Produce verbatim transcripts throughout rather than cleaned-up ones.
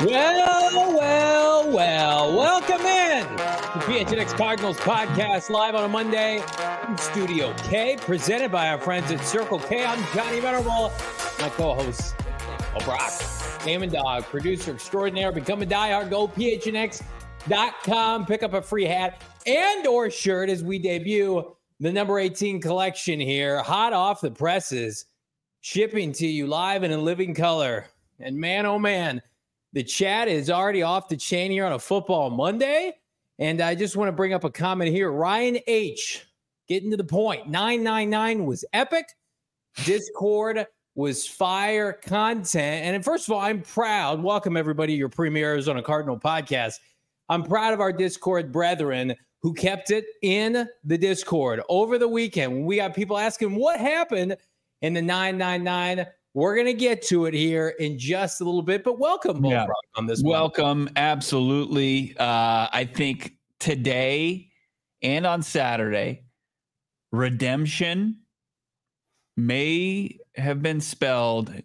Well, well, well, welcome in to P H N X Cardinals podcast live on a Monday in Studio K, presented by our friends at Circle K. I'm Johnny Venerable, my co-host, oh, Brock, Damon Dog, producer extraordinaire. Become a diehard, go P H N X dot com, pick up a free hat and or shirt as we debut the number eighteen collection here, hot off the presses, shipping to you live and in living color. And man, oh man, the chat is already off the chain here on a football Monday. And I just want to bring up a comment here. Ryan H. getting to the point. nine nine nine was epic. Discord was fire content. And first of all, I'm proud. Welcome, everybody, to your premier Arizona Cardinal podcast. I'm proud of our Discord brethren who kept it in the Discord over the weekend. We got people asking what happened in the nine nine nine. We're going to get to it here in just a little bit, but welcome, Bull yeah. Brock, on this. Welcome. Moment. Absolutely. Uh, I think today and on Saturday, redemption may have been spelled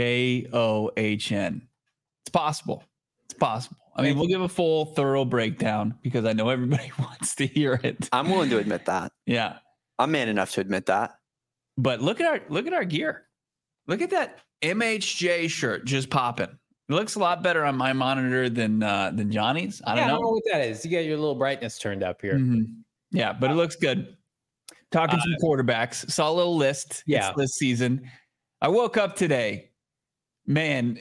J O H N. It's possible. It's possible. I mean, we'll give a full, thorough breakdown because I know everybody wants to hear it. I'm willing to admit that. Yeah. I'm man enough to admit that. But look at our look at our gear. Look at that M H J shirt just popping. It looks a lot better on my monitor than uh, than Johnny's. I don't yeah, know. I don't know what that is. You got your little brightness turned up here. Mm-hmm. Yeah, but it looks good. Talking uh, some quarterbacks. Saw a little list yeah. It's this season. I woke up today. Man,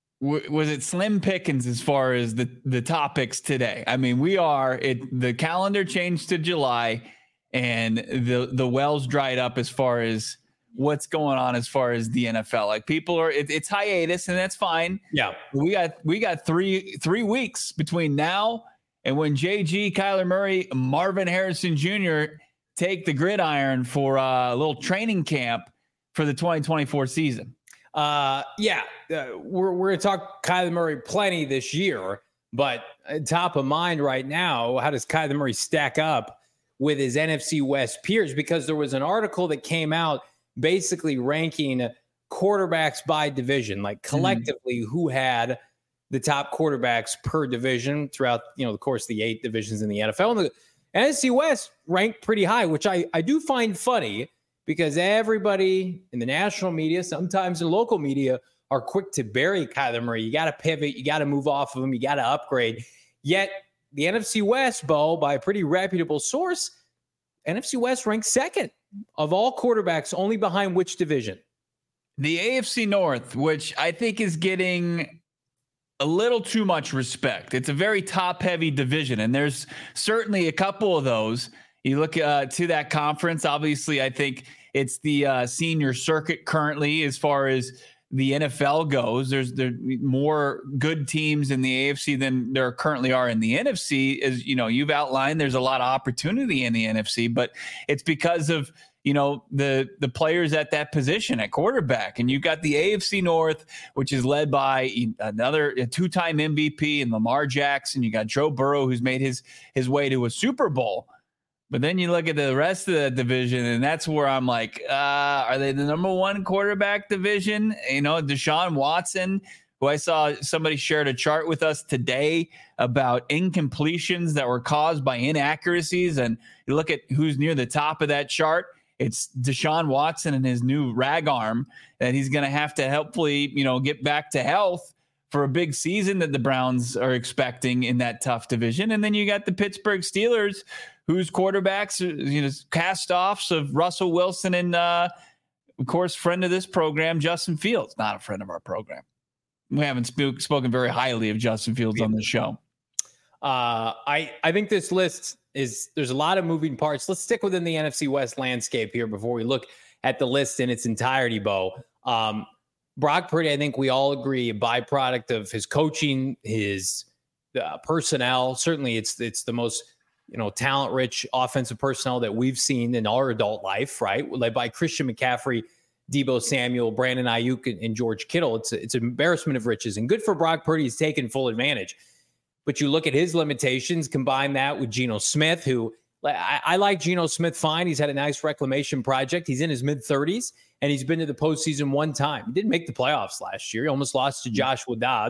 w- was it slim pickings as far as the, the topics today? I mean, we are it. The calendar changed to July, and the the wells dried up as far as what's going on as far as the N F L. Like people are, it, it's hiatus, and that's fine. Yeah, we got we got three three weeks between now and when J G, Kyler Murray, Marvin Harrison Junior take the gridiron for a little training camp for the twenty twenty-four season. Uh, yeah, uh, we're we're gonna talk Kyler Murray plenty this year, but top of mind right now, how does Kyler Murray stack up with his N F C West peers? Because there was an article that came out basically ranking quarterbacks by division, like collectively mm-hmm. who had the top quarterbacks per division throughout, you know, the course of the eight divisions in the N F L. And the N F C West ranked pretty high, which I, I do find funny because everybody in the national media, sometimes the local media, are quick to bury Kyler Murray. You got to pivot. You got to move off of him. You got to upgrade. Yet the N F C West, Bo, by a pretty reputable source, N F C West ranked second of all quarterbacks, only behind which division? The A F C North, which I think is getting a little too much respect. It's a very top-heavy division, and there's certainly a couple of those. You look uh, to that conference, obviously, I think it's the uh, senior circuit currently as far as the N F L goes. There's there more good teams in the A F C than there currently are in the N F C. As you know, you've outlined, there's a lot of opportunity in the N F C, but it's because of, you know, the the players at that position at quarterback. And you've got the A F C North, which is led by another a two-time M V P in Lamar Jackson. You got Joe Burrow, who's made his his way to a Super Bowl. But then you look at the rest of the division, and that's where I'm like, uh, are they the number one quarterback division? You know, Deshaun Watson, who I saw somebody shared a chart with us today about incompletions that were caused by inaccuracies. And you look at who's near the top of that chart. It's Deshaun Watson and his new rag arm that he's going to have to hopefully, you know, get back to health for a big season that the Browns are expecting in that tough division. And then you got the Pittsburgh Steelers, whose quarterbacks, you know, cast-offs of Russell Wilson and, uh, of course, friend of this program, Justin Fields. Not a friend of our program. We haven't sp- spoken very highly of Justin Fields on the show. Uh, I, I think this list is, there's a lot of moving parts. Let's stick within the N F C West landscape here before we look at the list in its entirety, Bo. Um, Brock Purdy, I think we all agree, a byproduct of his coaching, his uh, personnel. Certainly it's it's the most, you know, talent-rich offensive personnel that we've seen in our adult life, right? Led by Christian McCaffrey, Deebo Samuel, Brandon Ayuk, and, and George Kittle. It's a, it's an embarrassment of riches, and good for Brock Purdy. He's taken full advantage. But you look at his limitations, combine that with Geno Smith, who I, I like Geno Smith fine. He's had a nice reclamation project. He's in his mid-thirties, and he's been to the postseason one time. He didn't make the playoffs last year. He almost lost to Joshua Dobbs.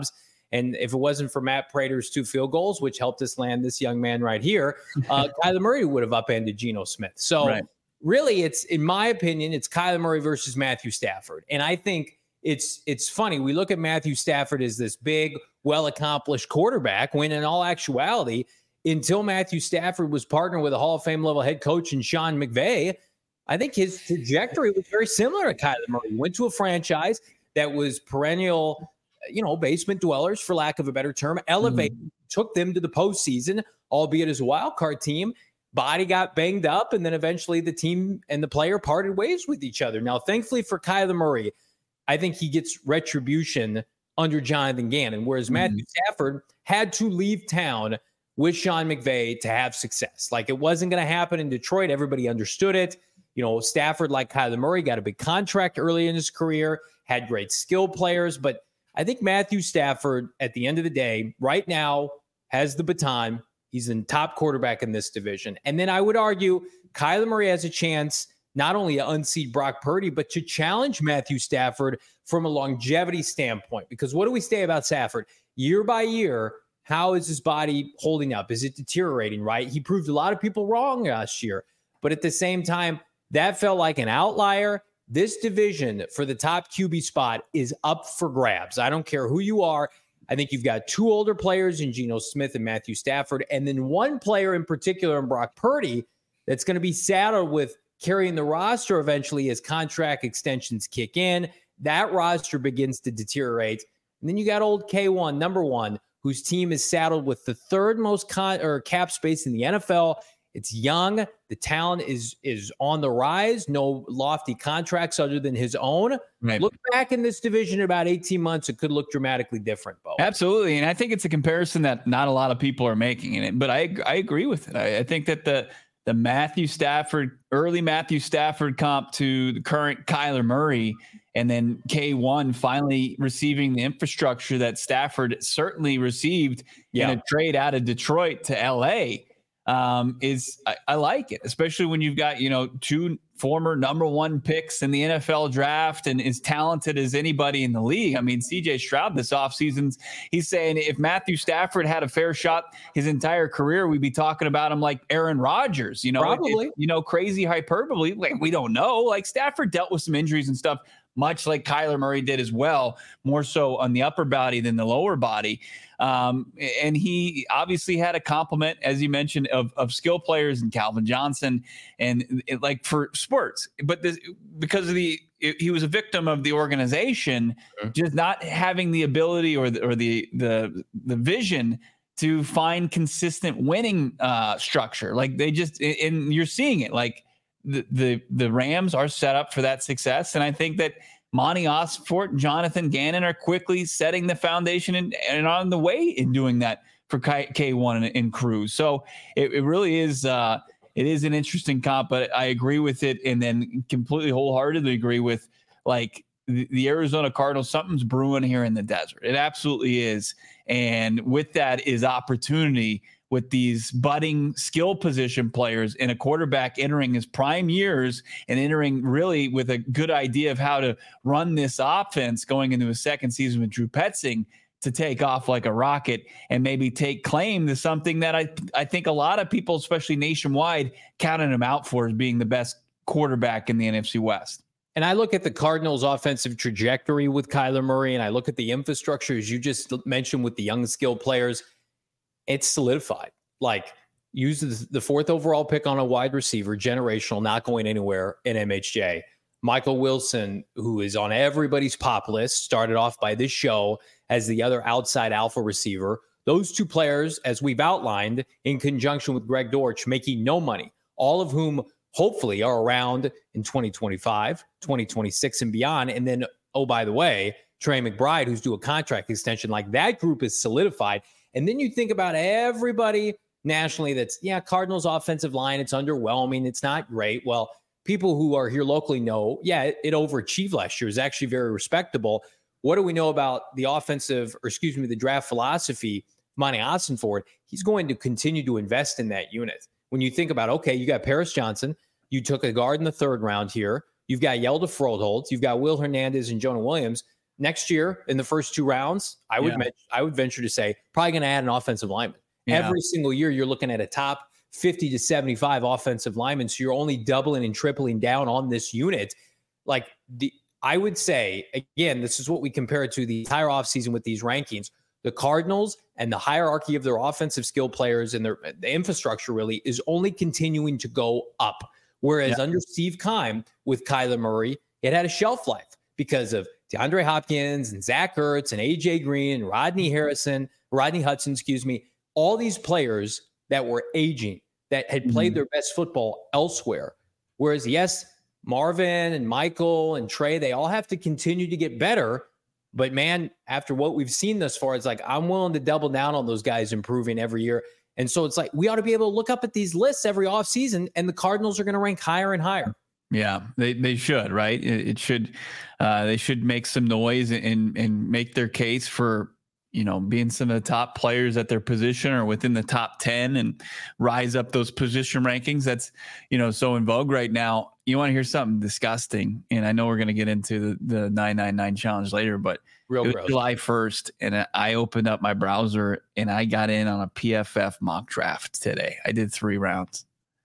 And if it wasn't for Matt Prater's two field goals, which helped us land this young man right here, uh, Kyler Murray would have upended Geno Smith. So right. really, it's, in my opinion, it's Kyler Murray versus Matthew Stafford. And I think it's it's funny. We look at Matthew Stafford as this big, well-accomplished quarterback, when in all actuality, until Matthew Stafford was partnered with a Hall of Fame level head coach in Sean McVay, I think his trajectory was very similar to Kyler Murray. He went to a franchise that was perennial, you know, basement dwellers, for lack of a better term, elevated, mm-hmm. took them to the postseason, albeit as a wild card team. Body got banged up, and then eventually the team and the player parted ways with each other. Now, thankfully for Kyler Murray, I think he gets retribution under Jonathan Gannon, whereas mm-hmm. Matthew Stafford had to leave town with Sean McVay to have success. Like, it wasn't going to happen in Detroit. Everybody understood it. You know, Stafford, like Kyler Murray, got a big contract early in his career, had great skill players. But I think Matthew Stafford, at the end of the day, right now, has the baton. He's the top quarterback in this division. And then I would argue Kyler Murray has a chance not only to unseat Brock Purdy, but to challenge Matthew Stafford from a longevity standpoint. Because what do we say about Stafford? Year by year, how is his body holding up? Is it deteriorating, right? He proved a lot of people wrong last year. But at the same time, that felt like an outlier. This division for the top Q B spot is up for grabs. I don't care who you are. I think you've got two older players in Geno Smith and Matthew Stafford, and then one player in particular in Brock Purdy that's going to be saddled with carrying the roster eventually as contract extensions kick in. That roster begins to deteriorate. And then you got old K one, number one, whose team is saddled with the third most con- or cap space in the N F L. It's young. The talent is is on the rise. No lofty contracts other than his own. Right. Look back in this division in about eighteen months. It could look dramatically different, Bo. Absolutely. And I think it's a comparison that not a lot of people are making in it, but I I agree with it. I, I think that the the Matthew Stafford, early Matthew Stafford comp to the current Kyler Murray, and then K one finally receiving the infrastructure that Stafford certainly received yeah. in a trade out of Detroit to L A, um, is I, I like it, especially when you've got, you know, two former number one picks in the N F L draft and as talented as anybody in the league. I mean, C J Stroud this offseason, he's saying if Matthew Stafford had a fair shot his entire career, we'd be talking about him like Aaron Rodgers, you know, probably, it, you know, crazy hyperbole. Like, we don't know. Like, Stafford dealt with some injuries and stuff, much like Kyler Murray did as well, more so on the upper body than the lower body. Um, and he obviously had a complement, as you mentioned, of, of skill players and Calvin Johnson and it, like for sports. But this, because of the, it, he was a victim of the organization, mm-hmm. just not having the ability or the, or the, the, the vision to find consistent winning uh, structure. Like they just, and you're seeing it, like the, the, the Rams are set up for that success. And I think that Monty Osfort and Jonathan Gannon are quickly setting the foundation and, and on the way in doing that for K one and, and crew. So it, it really is, uh, it is an interesting comp, but I agree with it. And then completely wholeheartedly agree with like the, the Arizona Cardinals. Something's brewing here in the desert. It absolutely is. And with that is opportunity with these budding skill position players and a quarterback entering his prime years and entering really with a good idea of how to run this offense going into a second season with Drew Petzing to take off like a rocket and maybe take claim to something that I, I think a lot of people, especially nationwide, counted him out for as being the best quarterback in the N F C West. And I look at the Cardinals' offensive trajectory with Kyler Murray, and I look at the infrastructure, as you just mentioned, with the young skill players. It's solidified. Like, use the fourth overall pick on a wide receiver, generational, not going anywhere in M H J. Michael Wilson, who is on everybody's pop list, started off by this show as the other outside alpha receiver. Those two players, as we've outlined, in conjunction with Greg Dortch, making no money, all of whom hopefully are around in twenty twenty-five, twenty twenty-six and beyond. And then, oh, by the way, Trey McBride, who's due a contract extension. Like, that group is solidified. And then you think about everybody nationally that's, yeah, Cardinals offensive line, it's underwhelming. It's not great. Well, people who are here locally know, yeah, it, it overachieved last year. It's actually very respectable. What do we know about the offensive, or excuse me, the draft philosophy, Monty Ossenford? He's going to continue to invest in that unit. When you think about, okay, you got Paris Johnson, you took a guard in the third round here. You've got Yelda Froholt, you've got Will Hernandez and Jonah Williams. next year in the first two rounds, I would, Yeah. men- I would venture to say probably going to add an offensive lineman. Yeah. Every single year, you're looking at a top fifty to seventy-five offensive linemen. So you're only doubling and tripling down on this unit. Like the, I would say, again, this is what we compare it to the entire offseason with these rankings. The Cardinals and the hierarchy of their offensive skill players and their the infrastructure really is only continuing to go up. Whereas Yeah. under Steve Keim with Kyler Murray, it had a shelf life because of DeAndre Hopkins and Zach Ertz and A J Green and Rodney Harrison, Rodney Hudson, excuse me, all these players that were aging, that had played Mhm. their best football elsewhere. Whereas, yes, Marvin and Michael and Trey, they all have to continue to get better. But man, after what we've seen thus far, it's like I'm willing to double down on those guys improving every year. And so it's like we ought to be able to look up at these lists every offseason, and the Cardinals are going to rank higher and higher. Yeah, they they should, right? It, it should, uh, they should make some noise and and make their case for, you know, being some of the top players at their position or within the top ten and rise up those position rankings. That's, you know, so in vogue right now. You want to hear something disgusting? And I know we're going to get into the, the nine nine nine challenge later, but Real it was gross. July first, and I opened up my browser and I got in on a P F F mock draft today. I did three rounds.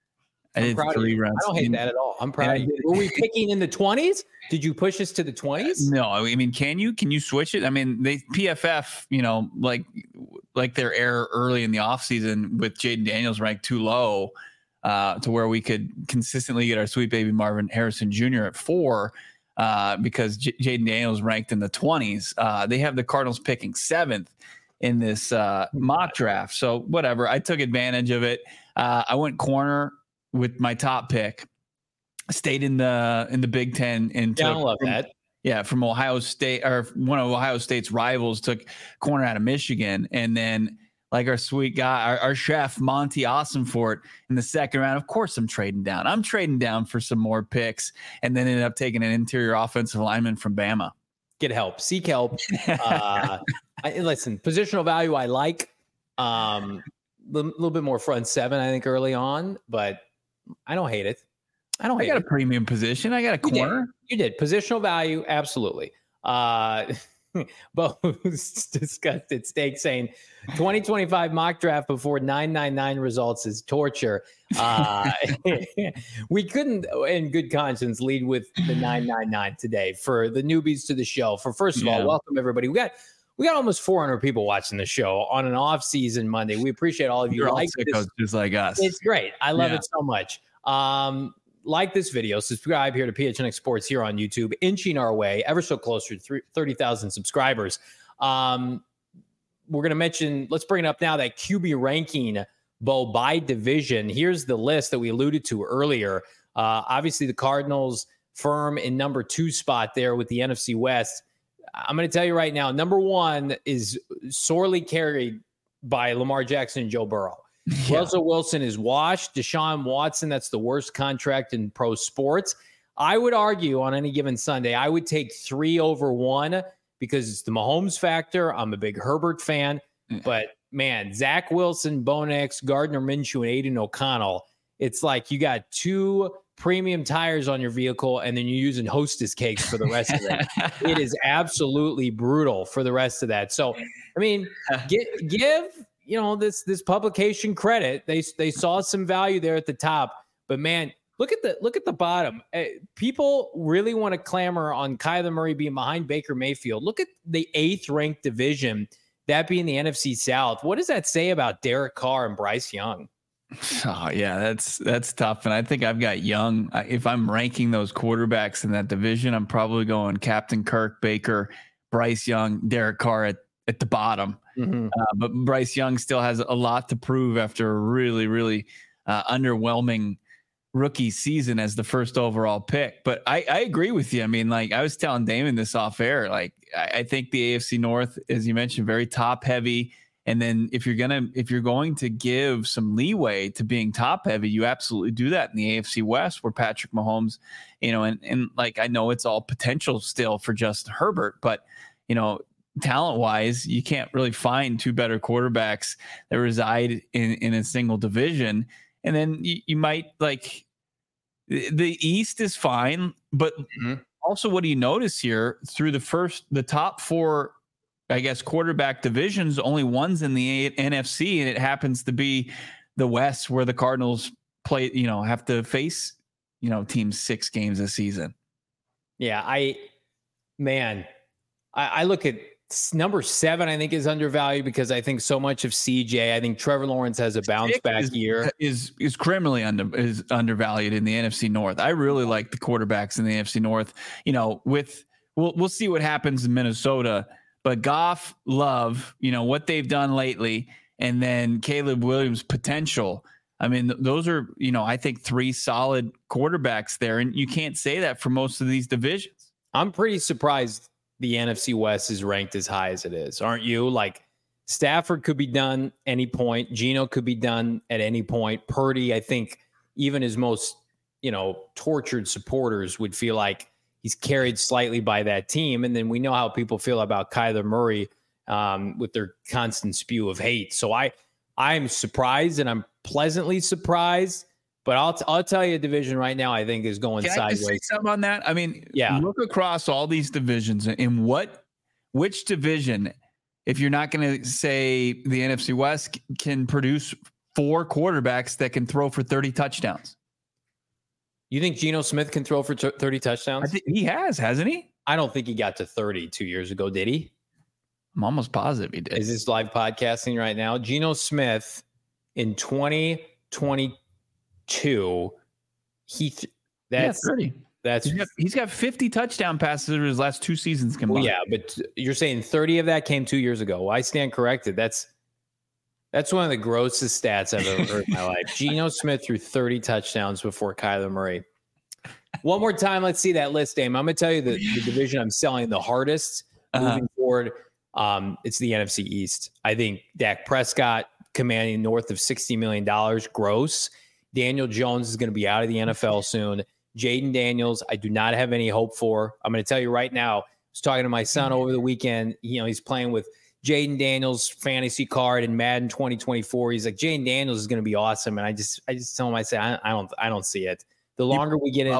I I'm did proud of three you. rounds. I don't hate And- that at all. I'm and proud I of you. did- Were we picking in the twenties? Did you push us to the twenties? No, I mean, can you can you switch it? I mean, they P F F, you know, like like their error early in the offseason with Jaden Daniels ranked too low uh, to where we could consistently get our sweet baby Marvin Harrison Junior at four uh, because J- Jaden Daniels ranked in the twenties. Uh, they have the Cardinals picking seventh in this uh, mock draft. So whatever, I took advantage of it. Uh, I went corner with my top pick. Stayed in the in the Big Ten and Yeah, I took love from- that. yeah, from Ohio State, or one of Ohio State's rivals, took corner out of Michigan. And then, like our sweet guy, our, our chef, Monty Awesamefort, in the second round, of course, I'm trading down. I'm trading down for some more picks, and then ended up taking an interior offensive lineman from Bama. Get help. Seek help. Uh, I, listen, positional value I like. Um, a little, little bit more front seven, I think, early on, but I don't hate it. I don't I hate got a it. premium position. I got a You did. corner. You did. Positional value, absolutely. Uh, Bo discussed at stake saying twenty twenty-five mock draft before nine nine nine results is torture. Uh, we couldn't, in good conscience, lead with the nine nine nine today for the newbies to the show. For first of Yeah. all, welcome everybody. We got we got almost four hundred people watching the show on an off-season Monday. We appreciate all of you. You're all Like sickos this, just like us. it's great. I love Yeah. it so much. Um, like this video, subscribe here to P H N X Sports here on YouTube, inching our way ever so closer to thirty thousand subscribers. Um, we're going to mention, let's bring it up now, that Q B ranking, Bo, by division. Here's the list that we alluded to earlier. Uh, obviously, the Cardinals firm in number two spot there with the N F C West. I'm going to tell you right now, number one is sorely carried by Lamar Jackson and Joe Burrow. Yeah. Russell Wilson is washed. Deshaun Watson, that's the worst contract in pro sports. I would argue on any given Sunday, I would take three over one because it's the Mahomes factor. I'm a big Herbert fan. Yeah. But, man, Zach Wilson, Bo Nix, Gardner Minshew, and Aiden O'Connell, it's like you got two premium tires on your vehicle and then you're using Hostess cakes for the rest of it. It is absolutely brutal for the rest of that. So, I mean, give, give you know, this this publication credit. They they saw some value there at the top, but man, look at the look at the bottom. Uh, people really want to clamor on Kyler Murray being behind Baker Mayfield. Look at the eighth ranked division, that being the N F C South. What does that say about Derek Carr and Bryce Young? Oh yeah, that's that's tough. And I think I've got Young. I- If I'm ranking those quarterbacks in that division, I'm probably going Captain Kirk, Baker, Bryce Young, Derek Carr at, at the bottom. Mm-hmm. Uh, but Bryce Young still has a lot to prove after a really, really uh, underwhelming rookie season as the first overall pick. But I, I agree with you. I mean, like I was telling Damon this off air, like I, I think the A F C North, as you mentioned, very top heavy. And then if you're gonna if you're going to give some leeway to being top heavy, you absolutely do that in the A F C West, where Patrick Mahomes, you know, and and like I know it's all potential still for just Herbert, but you know, talent wise, you can't really find two better quarterbacks that reside in in a single division. And then you, you might like the East is fine, but Mhm. also, what do you notice here through the first, the top four, I guess, quarterback divisions, only one's in the N F C, and it happens to be the West where the Cardinals play, you know, have to face, you know, teams six games a season. Yeah, I, man, I, I look at number seven, I think is undervalued because I think so much of C J. I think Trevor Lawrence has a bounce Six back is, year. Is is criminally under is undervalued in the N F C North. I really like the quarterbacks in the N F C North. You know, with we'll we'll see what happens in Minnesota, but Goff, Love, you know what they've done lately, and then Caleb Williams' potential. I mean, th- those are, you know, I think three solid quarterbacks there, and you can't say that for most of these divisions. I'm pretty surprised the N F C West is ranked as high as it is. Aren't you? Like, Stafford could be done any point. Geno could be done at any point. Purdy, I think even his most, you know, tortured supporters would feel like he's carried slightly by that team. And then we know how people feel about Kyler Murray um, with their constant spew of hate. So I, I'm surprised, and I'm pleasantly surprised. But I'll t- I'll tell you, a division right now I think is going Can sideways. I just say something on that? I mean, yeah. Look across all these divisions, in what, which division, if you're not going to say the N F C West, can produce four quarterbacks that can throw for thirty touchdowns? You think Geno Smith can throw for t- thirty touchdowns? I think he has, hasn't he? I don't think he got to thirty two years ago. Did he? I'm almost positive he did. Is this live podcasting right now? Geno Smith in twenty twenty-two, he th- that's yeah, thirty. That's he's got, he's got fifty touchdown passes over his last two seasons combined. Well, yeah, but you're saying thirty of that came two years ago. Well, I stand corrected. That's that's one of the grossest stats I've ever heard in my life. Geno Smith threw thirty touchdowns before Kyler Murray. One more time, let's see that list, Dame. I'm going to tell you the, the division I'm selling the hardest uh-huh. moving forward. Um, it's the N F C East. I think Dak Prescott commanding north of sixty million dollars gross. Daniel Jones is going to be out of the N F L soon. Jaden Daniels, I do not have any hope for. I'm going to tell you right now, I was talking to my son over the weekend. You know, he's playing with Jaden Daniels fantasy card in Madden twenty twenty-four. He's like, Jaden Daniels is going to be awesome. And I just, I just tell him, I say, I, I don't, I don't see it. The longer we get in,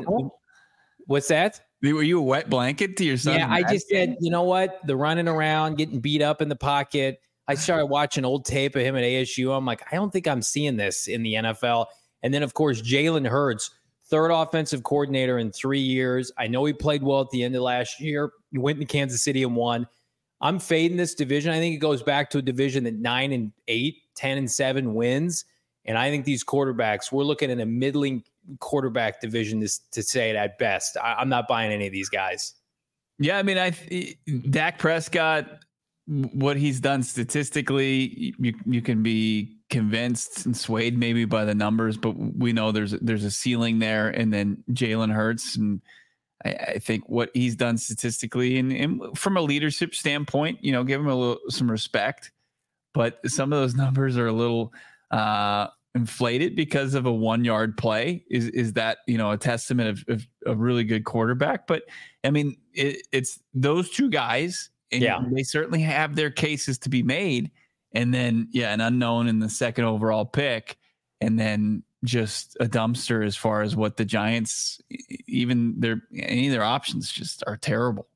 what's that? Were you a wet blanket to your son? Yeah, I just said, you know what? The running around, getting beat up in the pocket. I started watching old tape of him at A S U. I'm like, I don't think I'm seeing this in the N F L. And then, of course, Jalen Hurts, third offensive coordinator in three years. I know he played well at the end of last year. He went to Kansas City and won. I'm fading this division. I think it goes back to a division that nine and eight, ten and seven wins. And I think these quarterbacks, we're looking at a middling quarterback division to, to say it at best. I, I'm not buying any of these guys. Yeah, I mean, I Dak Prescott, what he's done statistically, you you can be convinced and swayed maybe by the numbers, but we know there's there's a ceiling there. And then Jalen Hurts, and I, I think what he's done statistically and, and from a leadership standpoint, you know, give him a little some respect. But some of those numbers are a little uh, inflated because of a one yard play. Is is that, you know, a testament of, of a really good quarterback? But I mean, it, it's those two guys. And yeah, they certainly have their cases to be made. And then, yeah, an unknown in the second overall pick. And then just a dumpster as far as what the Giants, even their, any of their options just are terrible.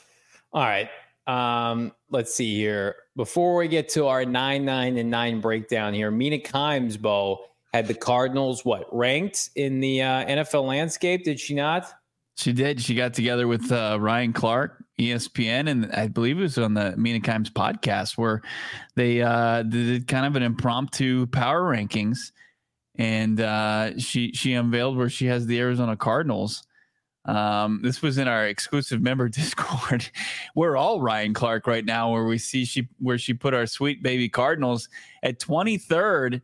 All right. Um, let's see here. Before we get to our nine, nine, and nine breakdown here, Mina Kimes, Bo, had the Cardinals, what, ranked in the uh, N F L landscape? Did she not? She did. She got together with uh, Ryan Clark, E S P N, and I believe it was on the Mina Kimes podcast where they uh, did kind of an impromptu power rankings, and uh, she she unveiled where she has the Arizona Cardinals. Um, this was in our exclusive member Discord. We're all Ryan Clark right now, where we see she where she put our sweet baby Cardinals at twenty-third.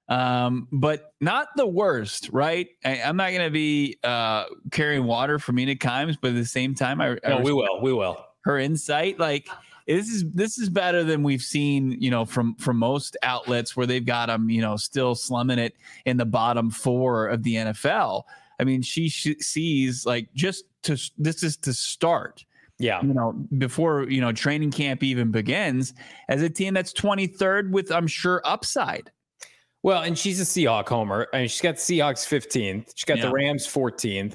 Um, but not the worst, right? I, I'm not going to be uh, carrying water for Mina Kimes, but at the same time, I, no, I we will, we will. Her insight, like this is this is better than we've seen, you know, from from most outlets where they've got them, you know, still slumming it in the bottom four of the N F L. I mean, she sh- sees like just to this is to start. Yeah. You know, before, you know, training camp even begins, as a team that's twenty-third with, I'm sure, upside. Well, and she's a Seahawk homer. I mean, she's got the Seahawks fifteenth. She's got yeah. the Rams fourteenth.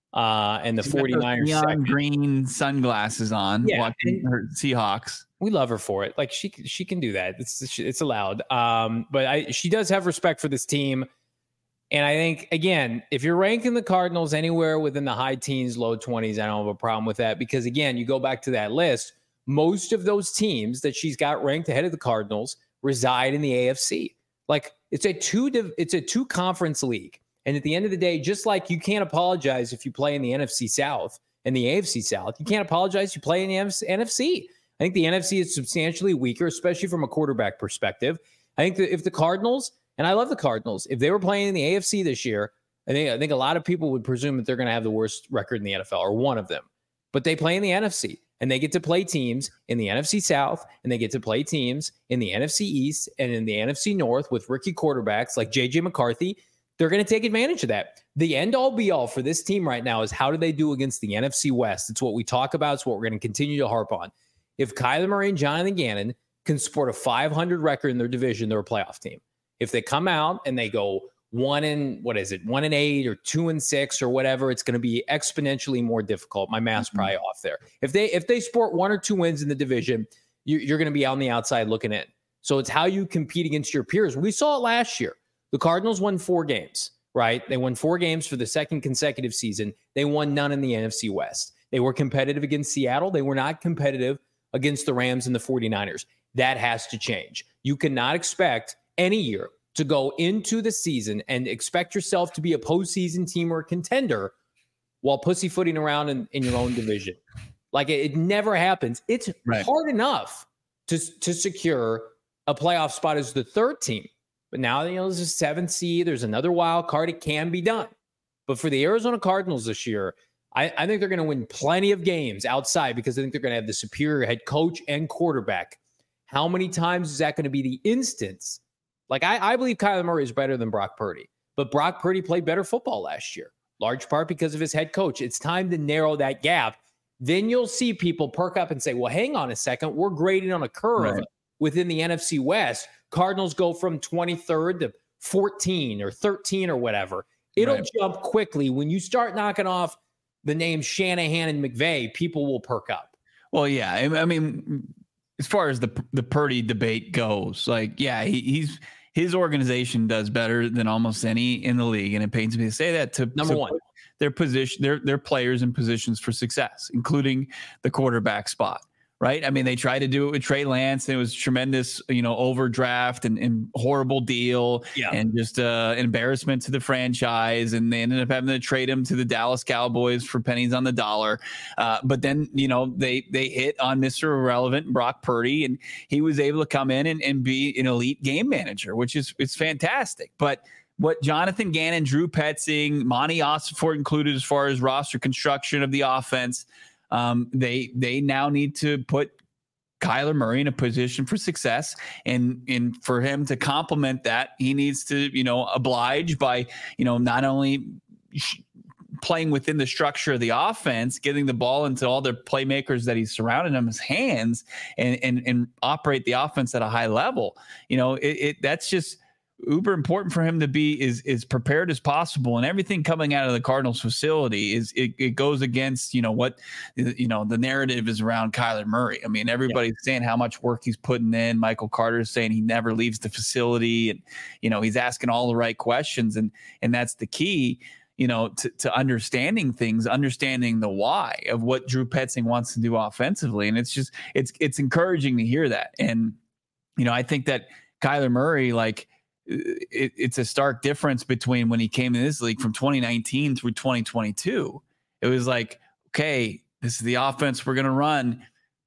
Uh, and the She's got those 49ers neon second. green sunglasses on, Yeah, watching and- her Seahawks. We love her for it. Like she she can do that. It's it's allowed. Um, but I she does have respect for this team. And I think, again, if you're ranking the Cardinals anywhere within the high teens, low twenties, I don't have a problem with that. Because, again, you go back to that list, most of those teams that she's got ranked ahead of the Cardinals reside in the A F C. Like, it's a two it's a two conference league. And at the end of the day, just like you can't apologize if you play in the N F C South and the A F C South, you can't apologize if you play in the N F C. I think the N F C is substantially weaker, especially from a quarterback perspective. I think that if the Cardinals, and I love the Cardinals, if they were playing in the A F C this year, I think I think a lot of people would presume that they're going to have the worst record in the N F L, or one of them. But they play in the N F C, and they get to play teams in the N F C South, and they get to play teams in the N F C East and in the N F C North with rookie quarterbacks like J J McCarthy. They're going to take advantage of that. The end-all be-all for this team right now is how do they do against the N F C West? It's what we talk about. It's what we're going to continue to harp on. If Kyler Murray and Jonathan Gannon can sport a five hundred record in their division, they're a playoff team. If they come out and they go one and what is it, one and eight or two and six or whatever, it's going to be exponentially more difficult. My math's mm-hmm. probably off there. If they if they sport one or two wins in the division, you, you're going to be on the outside looking in. So it's how you compete against your peers. We saw it last year. The Cardinals won four games, right? They won four games for the second consecutive season. They won none in the N F C West. They were competitive against Seattle. They were not competitive against the Rams and the 49ers. That has to change. You cannot expect any year to go into the season and expect yourself to be a postseason team or a contender while pussyfooting around in, in your own division. Like it, it never happens. It's right. hard enough to, to secure a playoff spot as the third team. But now, you know, there's a seventh seed. There's another wild card. It can be done. But for the Arizona Cardinals this year, I, I think they're going to win plenty of games outside because I think they're going to have the superior head coach and quarterback. How many times is that going to be the instance? Like, I, I believe Kyler Murray is better than Brock Purdy. But Brock Purdy played better football last year, large part because of his head coach. It's time to narrow that gap. Then you'll see people perk up and say, well, hang on a second. We're grading on a curve right. within the N F C West. Cardinals go from twenty-third to fourteen or thirteen or whatever. It'll right. jump quickly. When you start knocking off the names Shanahan and McVay, people will perk up. Well, yeah. I mean, as far as the the Purdy debate goes, like, yeah, he, he's his organization does better than almost any in the league, and it pains me to say that. To number to one, their position, their their players in positions for success, including the quarterback spot. Right. I mean, they tried to do it with Trey Lance, and it was tremendous, you know, overdraft and, and horrible deal yeah. and just uh, embarrassment to the franchise. And they ended up having to trade him to the Dallas Cowboys for pennies on the dollar. Uh, but then, you know, they they hit on Mister Irrelevant, Brock Purdy, and he was able to come in and, and be an elite game manager, which is it's fantastic. But what Jonathan Gannon, Drew Petzing, Monty Ossenfort included as far as roster construction of the offense, Um, they they now need to put Kyler Murray in a position for success, and and for him to complement that, he needs to you know oblige by you know not only sh- playing within the structure of the offense, getting the ball into all the playmakers that he's surrounding him his hands, and and and operate the offense at a high level. You know, it, it that's just uber important for him to be is is prepared as possible, and everything coming out of the Cardinals facility is it, it goes against you know what you know the narrative is around Kyler Murray. I mean, everybody's yeah. saying how much work he's putting in. Michael Carter's saying he never leaves the facility, and you know he's asking all the right questions, and and that's the key. You know, to, to understanding things, understanding the why of what Drew Petzing wants to do offensively, and it's just it's it's encouraging to hear that. And you know, I think that Kyler Murray, like. It, it's a stark difference between when he came in this league from twenty nineteen through twenty twenty-two. It was like, okay, this is the offense we're going to run.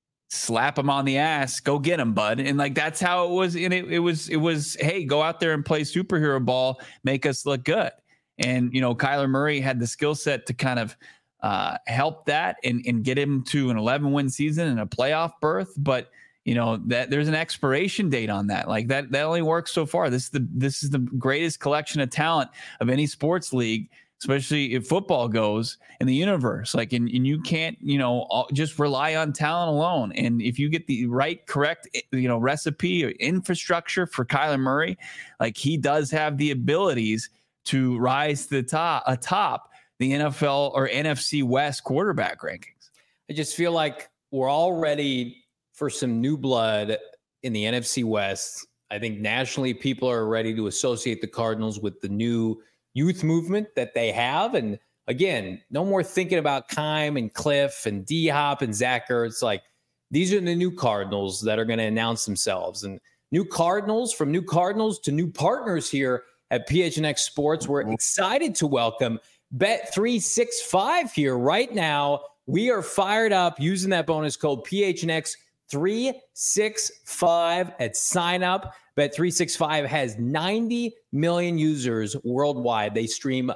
Slap him on the ass, go get him, bud. And like, that's how it was. And it, it was, it was, hey, go out there and play superhero ball, make us look good. And, you know, Kyler Murray had the skill set to kind of uh, help that and, and get him to an eleven win season and a playoff berth. But you know that there's an expiration date on that. Like that, that only works so far. This is the this is the greatest collection of talent of any sports league, especially if football goes in the universe. Like, and, and you can't, you know, all, just rely on talent alone. And if you get the right, correct, you know, recipe or infrastructure for Kyler Murray, like he does have the abilities to rise to the top, atop the N F L or N F C West quarterback rankings. I just feel like we're all ready for some new blood in the N F C West. I think nationally people are ready to associate the Cardinals with the new youth movement that they have. And again, no more thinking about Keim and Cliff and D-Hop and Zach Ertz. Like, these are the new Cardinals that are going to announce themselves. And new Cardinals, from new Cardinals to new partners here at P H N X Sports. We're excited to welcome Bet three sixty-five here right now. We are fired up using that bonus code P H N X three sixty-five at sign up. Bet three sixty-five has ninety million users worldwide. They stream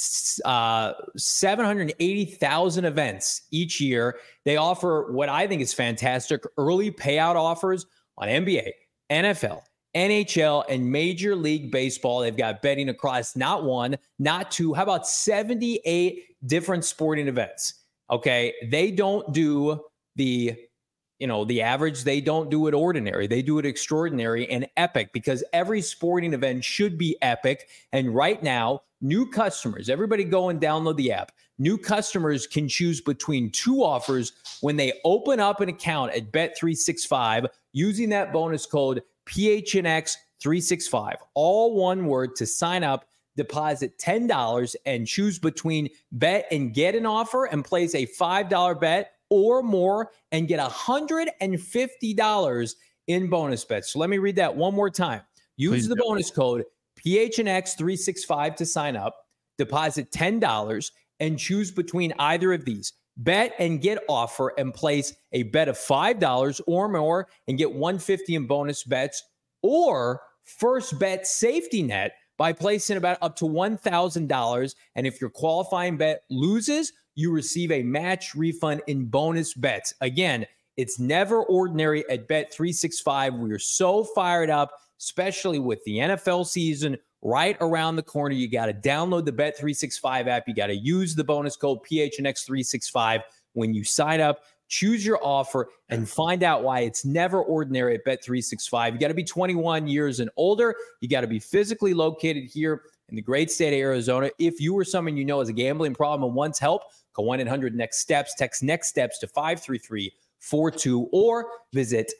uh, seven hundred eighty thousand events each year. They offer what I think is fantastic early payout offers on N B A, N F L, N H L, and Major League Baseball. They've got betting across not one, not two. How about seventy-eight different sporting events? Okay. They don't do the, you know, the average. They don't do it ordinary. They do it extraordinary and epic, because every sporting event should be epic. And right now, new customers, everybody go and download the app. New customers can choose between two offers when they open up an account at Bet three sixty-five using that bonus code P H N X three sixty-five. All one word to sign up. Deposit ten dollars and choose between bet and get an offer and place a five dollar bet or more and get one hundred fifty dollars in bonus bets. So let me read that one more time. Use Please the do. bonus code P H N X three sixty-five to sign up. Deposit ten dollars and choose between either of these. Bet and get offer and place a bet of five dollars or more and get one hundred fifty dollars in bonus bets, or first bet safety net by placing about up to one thousand dollars. And if your qualifying bet loses, you receive a match refund in bonus bets. Again, it's never ordinary at Bet three sixty-five. We are so fired up, especially with the N F L season right around the corner. You got to download the Bet three sixty-five app. You got to use the bonus code P H N X three sixty-five when you sign up. Choose your offer and find out why it's never ordinary at Bet three sixty-five. You got to be twenty-one years and older. You got to be physically located here in the great state of Arizona. If you or someone you know has a gambling problem and wants help, call one eight hundred next steps. Text next steps to five three three four two or visit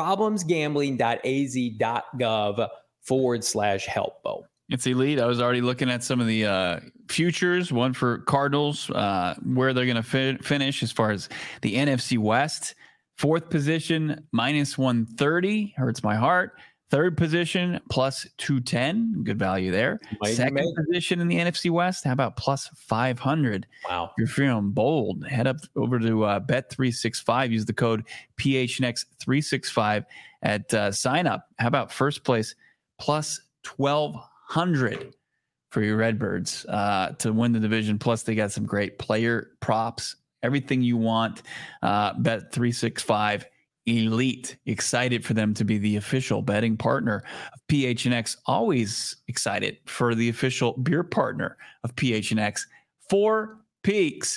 problemsgambling.az.gov forward slash help, Bo. It's elite. I was already looking at some of the uh, futures, one for Cardinals, uh, where they're going to fi- finish as far as the N F C West. Fourth position, minus one thirty. Hurts my heart. Third position, plus two ten. Good value there. Might Second make- position in the N F C West. How about plus five hundred? Wow. If you're feeling bold, head up over to uh, Bet three sixty-five. Use the code P H N X three sixty-five at uh, sign up. How about first place, plus twelve hundred for your Redbirds uh, to win the division. Plus, they got some great player props, everything you want. Uh, Bet three sixty-five Elite. Excited for them to be the official betting partner of P H N X. Always excited for the official beer partner of P H N X. Four Peaks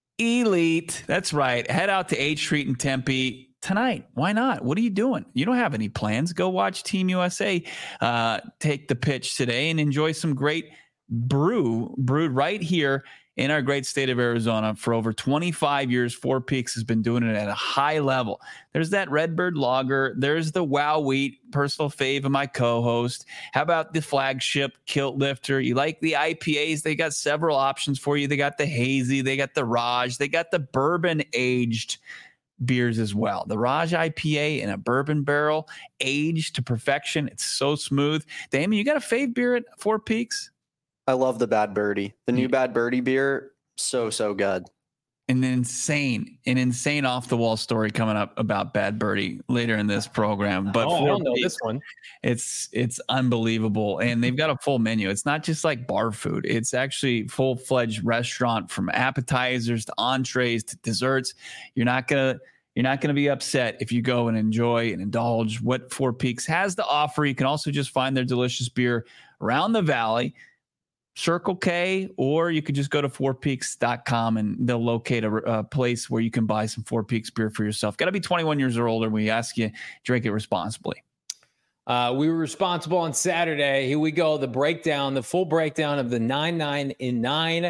Elite. That's right. Head out to H Street in Tempe tonight. Why not? What are you doing? You don't have any plans. Go watch Team U S A uh, take the pitch today and enjoy some great brew brewed right here in our great state of Arizona. For over twenty-five years, Four Peaks has been doing it at a high level. There's that Redbird Lager. There's the Wow Wheat, personal fave of my co-host. How about the flagship Kilt Lifter? You like the I P As? They got several options for you. They got the hazy. They got the Raj. They got the bourbon aged beers as well. The Raj I P A in a bourbon barrel, aged to perfection. It's so smooth. Damon, you got a fave beer at Four Peaks? I love the Bad Birdie. The new Bad Birdie beer, so, so good. An insane, an insane off the wall story coming up about Bad Birdie later in this program. But oh, I Four don't know Peaks, this one. It's it's unbelievable, and they've got a full menu. It's not just like bar food; it's actually full fledged restaurant, from appetizers to entrees to desserts. You're not gonna you're not gonna be upset if you go and enjoy and indulge what Four Peaks has to offer. You can also just find their delicious beer around the valley. Circle K, or you could just go to four peaks dot com and they'll locate a, a place where you can buy some Four Peaks beer for yourself. Got to be twenty-one years or older. We ask you drink it responsibly. Uh, we were responsible on Saturday. Here we go. The breakdown, the full breakdown of the nine nine in nine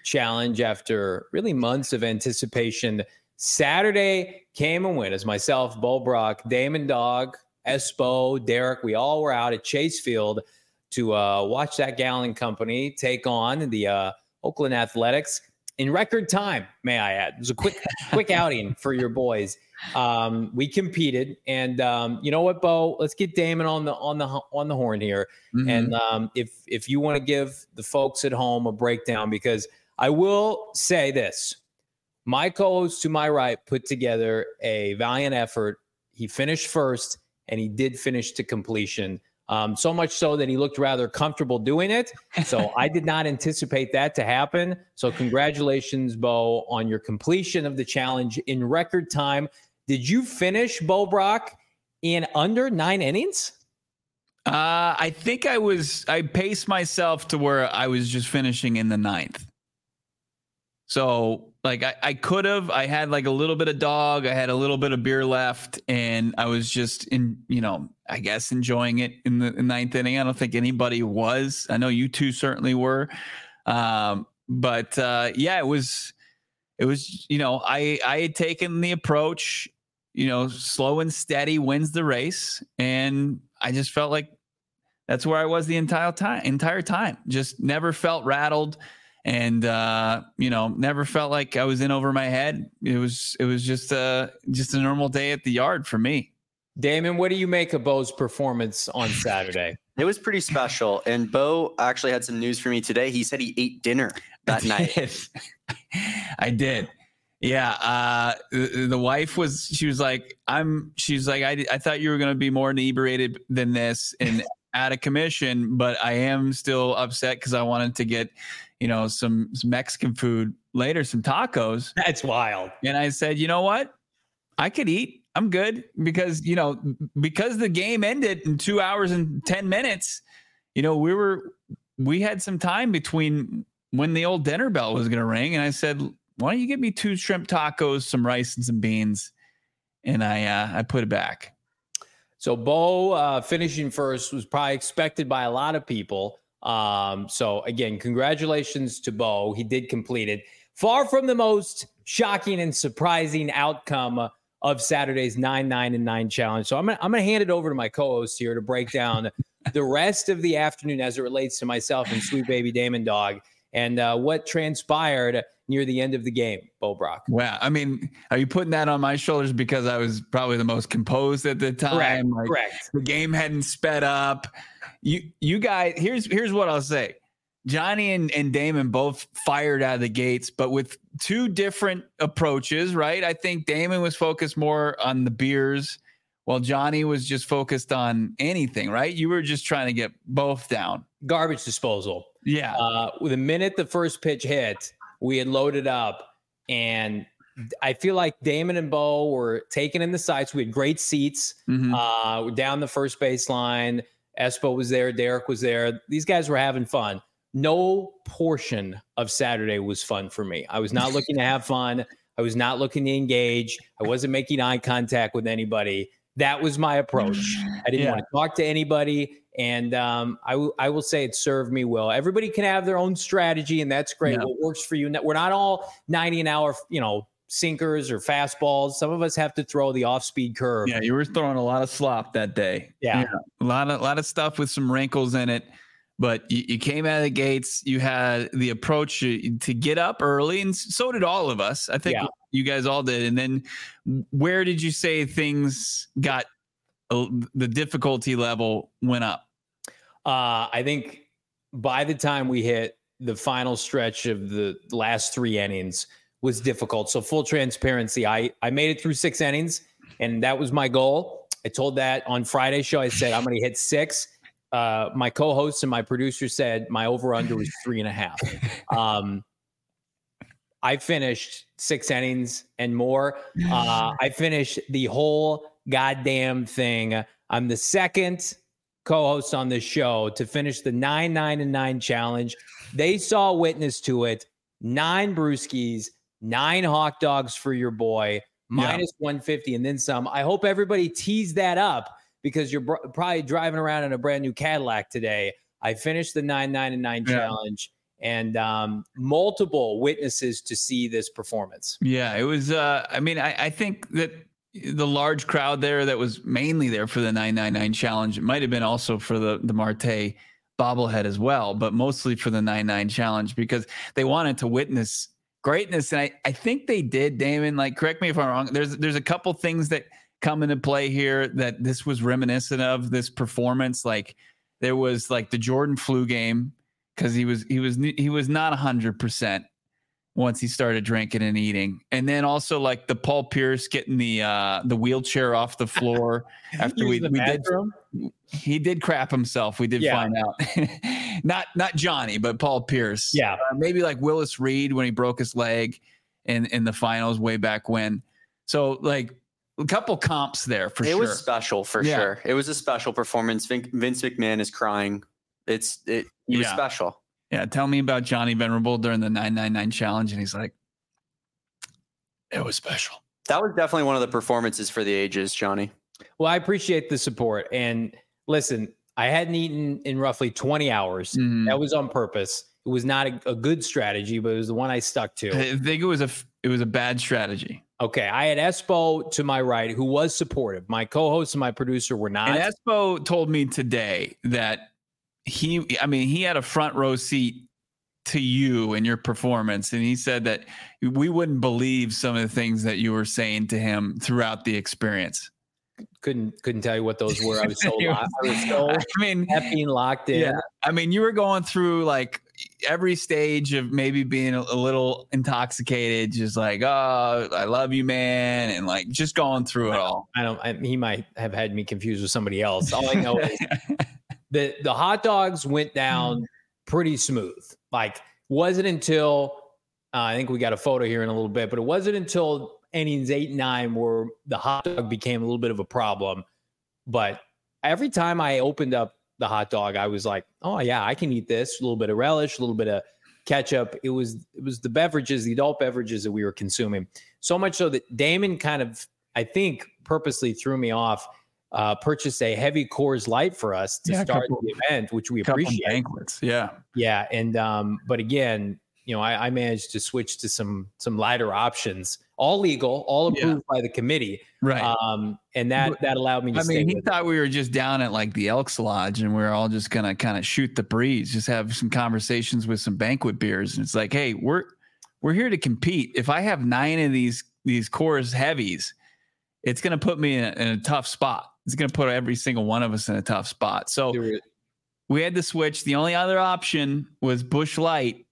challenge after really months of anticipation. Saturday came and went as myself, Bo Brock, Damon Dog, Espo, Derek, we all were out at Chase Field to uh, watch that Gallon Company take on the uh, Oakland Athletics in record time, may I add. It was a quick quick outing for your boys. Um, we competed, and um, you know what, Bo? Let's get Damon on the on the on the horn here. Mm-hmm. And um, if if you want to give the folks at home a breakdown, because I will say this, my co-host to my right put together a valiant effort. He finished first, and he did finish to completion. Um, so much so that he looked rather comfortable doing it. So I did not anticipate that to happen. So congratulations, Bo, on your completion of the challenge in record time. Did you finish, Bo Brock, in under nine innings? Uh, I think I was, I paced myself to where I was just finishing in the ninth. So like I, I could have, I had like a little bit of dog. I had a little bit of beer left, and I was just in, you know, I guess enjoying it in the ninth inning. I don't think anybody was. I know you two certainly were. Um, but uh, yeah, it was, it was, you know, I, I had taken the approach, you know, slow and steady wins the race. And I just felt like that's where I was the entire time, entire time, just never felt rattled. And, uh, you know, never felt like I was in over my head. It was, it was just a, just a normal day at the yard for me. Damon, what do you make of Bo's performance on Saturday? It was pretty special. And Bo actually had some news for me today. He said he ate dinner that I night. Did. I did. Yeah. Uh, the, the wife was, she was like, I'm, she's like, I, I thought you were going to be more inebriated than this and out of commission, but I am still upset because I wanted to get, you know, some, some Mexican food later, some tacos. That's wild. And I said, you know what? I could eat. I'm good because, you know, because the game ended in two hours and ten minutes, you know, we were, we had some time between when the old dinner bell was going to ring. And I said, why don't you give me two shrimp tacos, some rice and some beans? And I, uh, I put it back. So Bo uh, finishing first was probably expected by a lot of people. Um, so again, congratulations to Bo. He did complete it. Far from the most shocking and surprising outcome of Saturday's nine, nine, and nine challenge. So I'm gonna, I'm gonna hand it over to my co-host here to break down the rest of the afternoon as it relates to myself and sweet baby Damon Dog and uh, what transpired near the end of the game, Bo Brock. Wow. I mean, are you putting that on my shoulders because I was probably the most composed at the time? Correct. Like, correct. The game hadn't sped up. You, you guys, here's, here's what I'll say. Johnny and, and Damon both fired out of the gates, but with two different approaches, right? I think Damon was focused more on the beers while Johnny was just focused on anything, right? You were just trying to get both down. Garbage disposal. Yeah. Uh, the minute the first pitch hit, we had loaded up, and I feel like Damon and Bo were taken in the sights. We had great seats. Mm-hmm. Uh, we're down the first baseline. Espo was there. Derek was there. These guys were having fun. No portion of Saturday was fun for me. I was not looking to have fun. I was not looking to engage. I wasn't making eye contact with anybody. That was my approach. I didn't yeah. want to talk to anybody. And um, I, w- I will say it served me well. Everybody can have their own strategy, and that's great. Yeah. What works for you. We're not all ninety an hour, you know, sinkers or fastballs. Some of us have to throw the off-speed curve. Yeah, you were throwing a lot of slop that day. Yeah. yeah. A lot of, a lot of stuff with some wrinkles in it. But you, you came out of the gates. You had the approach to, to get up early, and so did all of us. I think yeah. you guys all did. And then where did you say things got uh, the difficulty level went up? Uh, I think by the time we hit the final stretch of the last three innings was difficult. So full transparency, I, I made it through six innings, and that was my goal. I told that on Friday's show. I said, I'm going to hit six. Uh, my co-host and my producer said my over-under was three and a half. Um, I finished six innings and more. Uh, I finished the whole goddamn thing. I'm the second co-host on this show to finish the nine, nine, and nine challenge. They saw witness to it. Nine brewskis, nine hot dogs for your boy, minus yeah. one fifty, and then some. I hope everybody teased that up, because you're br- probably driving around in a brand new Cadillac today. I finished the nine, nine, and nine yeah. challenge, and um, multiple witnesses to see this performance. Yeah, it was. Uh, I mean, I, I think that the large crowd there that was mainly there for the nine ninety-nine challenge, it might have been also for the, the Marte bobblehead as well, but mostly for the nine ninety-nine challenge because they wanted to witness greatness. And I, I think they did, Damon. Like, correct me if I'm wrong. There's there's a couple things that come into play here that this was reminiscent of this performance. Like there was like the Jordan flu game because he was he was he was not one hundred percent once he started drinking and eating. And then also like the Paul Pierce getting the uh, the wheelchair off the floor after we, we did. He did crap himself. We did yeah. find out. not not Johnny, but Paul Pierce. Yeah. Uh, maybe like Willis Reed when he broke his leg in, in the finals way back when. So like a couple comps there for it sure. It was special for yeah. sure. It was a special performance. Vin- Vince McMahon is crying. It's it. He was yeah. special. Yeah, tell me about Johnny Venerable during the nine ninety-nine challenge. And he's like, it was special. That was definitely one of the performances for the ages, Johnny. Well, I appreciate the support. And listen, I hadn't eaten in roughly twenty hours. Mm-hmm. That was on purpose. It was not a, a good strategy, but it was the one I stuck to. I think it was a, it was a bad strategy. Okay. I had Espo to my right, who was supportive. My co-host and my producer were not. And Espo told me today that he, I mean, he had a front row seat to you and your performance. And he said that we wouldn't believe some of the things that you were saying to him throughout the experience. Couldn't, couldn't tell you what those were. I was so, locked, I was so I mean, being locked in. Yeah. I mean, you were going through like every stage of maybe being a, a little intoxicated, just like, oh, I love you, man. And like, just going through it all. I don't, I, he might have had me confused with somebody else. All I know is the, the hot dogs went down pretty smooth. Like, wasn't until, uh, I think we got a photo here in a little bit, but it wasn't until innings eight and nine where the hot dog became a little bit of a problem. But every time I opened up the hot dog, I was like, oh yeah, I can eat this. A little bit of relish, a little bit of ketchup. It was, it was the beverages, the adult beverages that we were consuming. So much so that Damon kind of, I think, purposely threw me off, uh, purchased a heavy Coors Light for us to yeah, start couple, the event, which we appreciate. Banquets. Yeah. Yeah. And, um, but again, you know, I, I managed to switch to some, some lighter options, all legal, all approved yeah. by the committee. Right. Um, and that, that allowed me to I stay mean, he with thought it. we were just down at like the Elks Lodge and we we're all just going to kind of shoot the breeze, just have some conversations with some banquet beers. And it's like, hey, we're, we're here to compete. If I have nine of these, these Coors heavies, it's going to put me in a, in a tough spot. It's going to put every single one of us in a tough spot. So we had to switch. The only other option was Busch Light.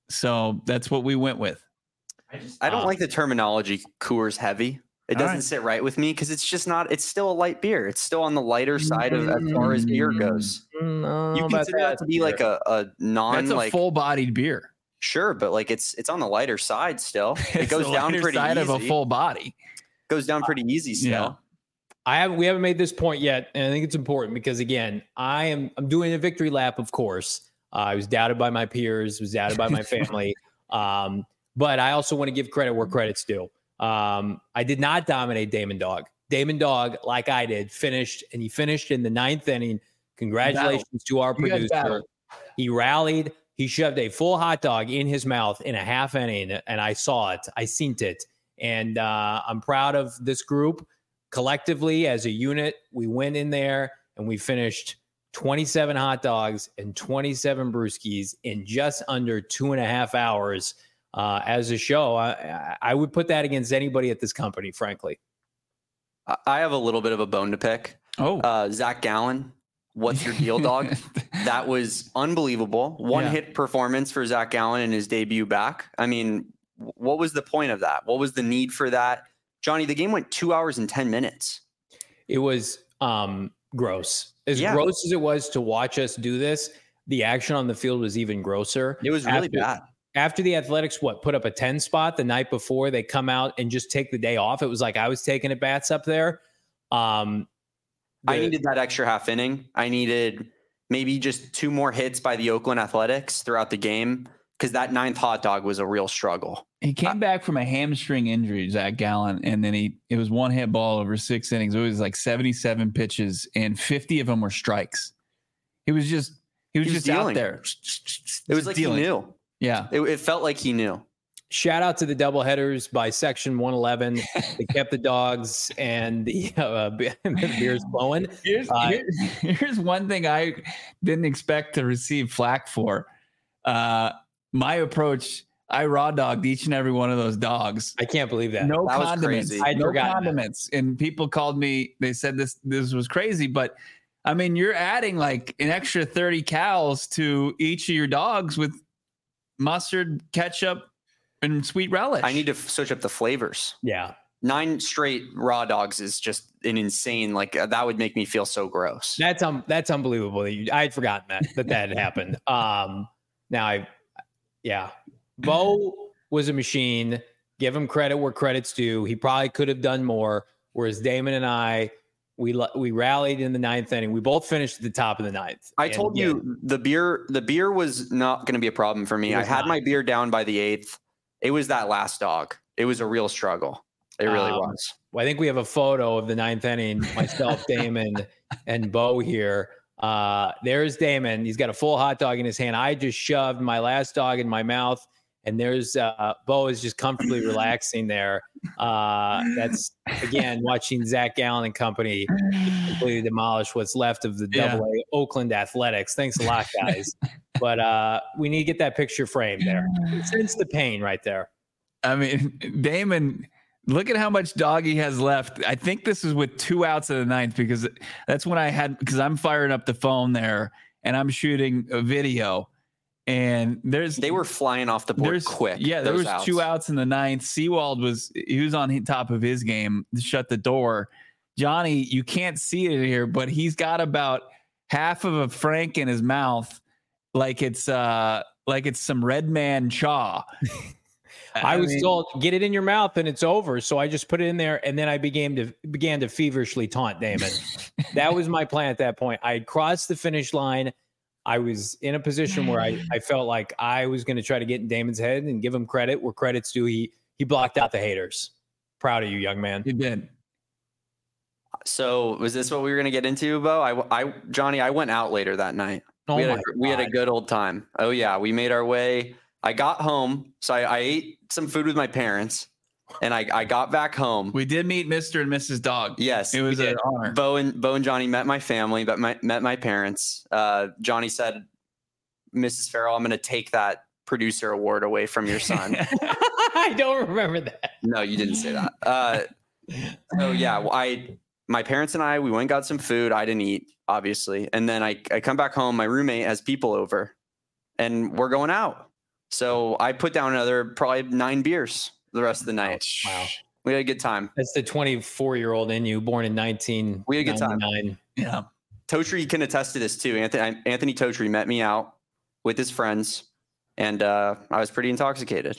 So that's what we went with. I, just, I don't um, like the terminology Coors Heavy. It doesn't right. sit right with me because it's just not, it's still a light beer. It's still on the lighter side of as far as beer goes. No, you consider that, that to be beer. like a, a non That's a like full-bodied beer. Sure, but like it's it's on the lighter side still. It goes down pretty side easy. of a full body. Goes down pretty easy still. Yeah. I haven't we haven't made this point yet, and I think it's important because again, I am I'm doing a victory lap, of course. Uh, I was doubted by my peers, was doubted by my family. Um, but I also want to give credit where credit's due. Um, I did not dominate Damon Dog. Damon Dog, like I did, finished, and he finished in the ninth inning. Congratulations battle. to our producer. He rallied. He shoved a full hot dog in his mouth in a half inning, and I saw it. I seen it. And uh, I'm proud of this group. Collectively, as a unit, we went in there and we finished twenty-seven hot dogs and twenty-seven brewskis in just under two and a half hours uh, as a show. I, I would put that against anybody at this company, frankly. I have a little bit of a bone to pick. Oh, uh, Zach Gallen, what's your deal, dog? That was unbelievable. One yeah. hit performance for Zach Gallen in his debut back. I mean, what was the point of that? What was the need for that? Johnny, the game went two hours and ten minutes. It was um, gross. As yeah. gross as it was to watch us do this, the action on the field was even grosser. It was really after, bad. After the Athletics, what, put up a ten spot the night before, they come out and just take the day off. It was like I was taking at bats up there. Um, the, I needed that extra half inning. I needed maybe just two more hits by the Oakland Athletics throughout the game because that ninth hot dog was a real struggle. He came uh, back from a hamstring injury, Zach Gallen, and then he it was one hit ball over six innings. It was like seventy-seven pitches, and fifty of them were strikes. It was just He was, He was just dealing. out there. It was like dealing. he knew. Yeah. It, it felt like he knew. Shout out to the doubleheaders by Section one eleven. They kept the dogs and the, uh, the beers flowing. Here's, Uh, here's, here's one thing I didn't expect to receive flack for. Uh, my approach, I raw dogged each and every one of those dogs. I can't believe that. No That was condiments. crazy. I'd no forgotten that. condiments. And people called me, they said this this was crazy, but I mean, you're adding like an extra thirty calories to each of your dogs with mustard, ketchup, and sweet relish. I need to f- switch up the flavors. Yeah. Nine straight raw dogs is just an insane. Like uh, that would make me feel so gross. That's um that's unbelievable. That you, I had forgotten that that that had happened. Um, now I, yeah, Bo was a machine. Give him credit where credit's due. He probably could have done more. Whereas Damon and I, we we rallied in the ninth inning. We both finished at the top of the ninth. I And told yeah, you the beer. The beer was not going to be a problem for me. It I was had not. my beer down by the eighth. It was that last dog. It was a real struggle. It really Um, was. Well, I think we have a photo of the ninth inning. Myself, Damon, and Bo here. Uh, there's Damon. He's got a full hot dog in his hand. I just shoved my last dog in my mouth, and there's uh, Bo is just comfortably relaxing there. Uh, that's again watching Zach Gallen and company completely demolish what's left of the Yeah. Double A Oakland Athletics. Thanks a lot, guys. But uh, we need to get that picture framed there. Sense the pain right there. I mean, Damon, look at how much dog he has left. I think this is with two outs of the ninth because that's when I had, because I'm firing up the phone there and I'm shooting a video. And there's They were flying off the board there's quick. Yeah, there those was two outs in the ninth. Seawald was he was on top of his game to shut the door. Johnny, you can't see it here, but he's got about half of a frank in his mouth, like it's uh like it's some red man chaw. I, was mean, told, get it in your mouth and it's over. So I just put it in there, and then I began to began to feverishly taunt Damon. That was my plan at that point. I had crossed the finish line. I was in a position where I, I felt like I was going to try to get in Damon's head and give him credit where credit's due. He he blocked out the haters. Proud of you, young man. you did. So was this what we were going to get into, Bo? I, I, Johnny, I went out later that night. Oh we, had my a, we had a God. good old time. Oh yeah. We made our way. I got home. So I, I ate some food with my parents and I, I got back home. We did meet Mister and Missus Dog. Yes. It was we an did. honor. Bo and Bo and Johnny met my family, but my, met my parents. Uh, Johnny said, Missus Farrell, I'm going to take that producer award away from your son. I don't remember that. No, you didn't say that. Uh, so yeah, well, I, my parents and I, we went and got some food. I didn't eat, obviously. And then I, I come back home. My roommate has people over and we're going out. So I put down another probably nine beers the rest of the night. Wow. We had a good time. That's the twenty-four year old in you, born in nineteen We had a good time. ninety-nine. Yeah. Totri can attest to this too. Anthony, Anthony Totri met me out with his friends and uh, I was pretty intoxicated.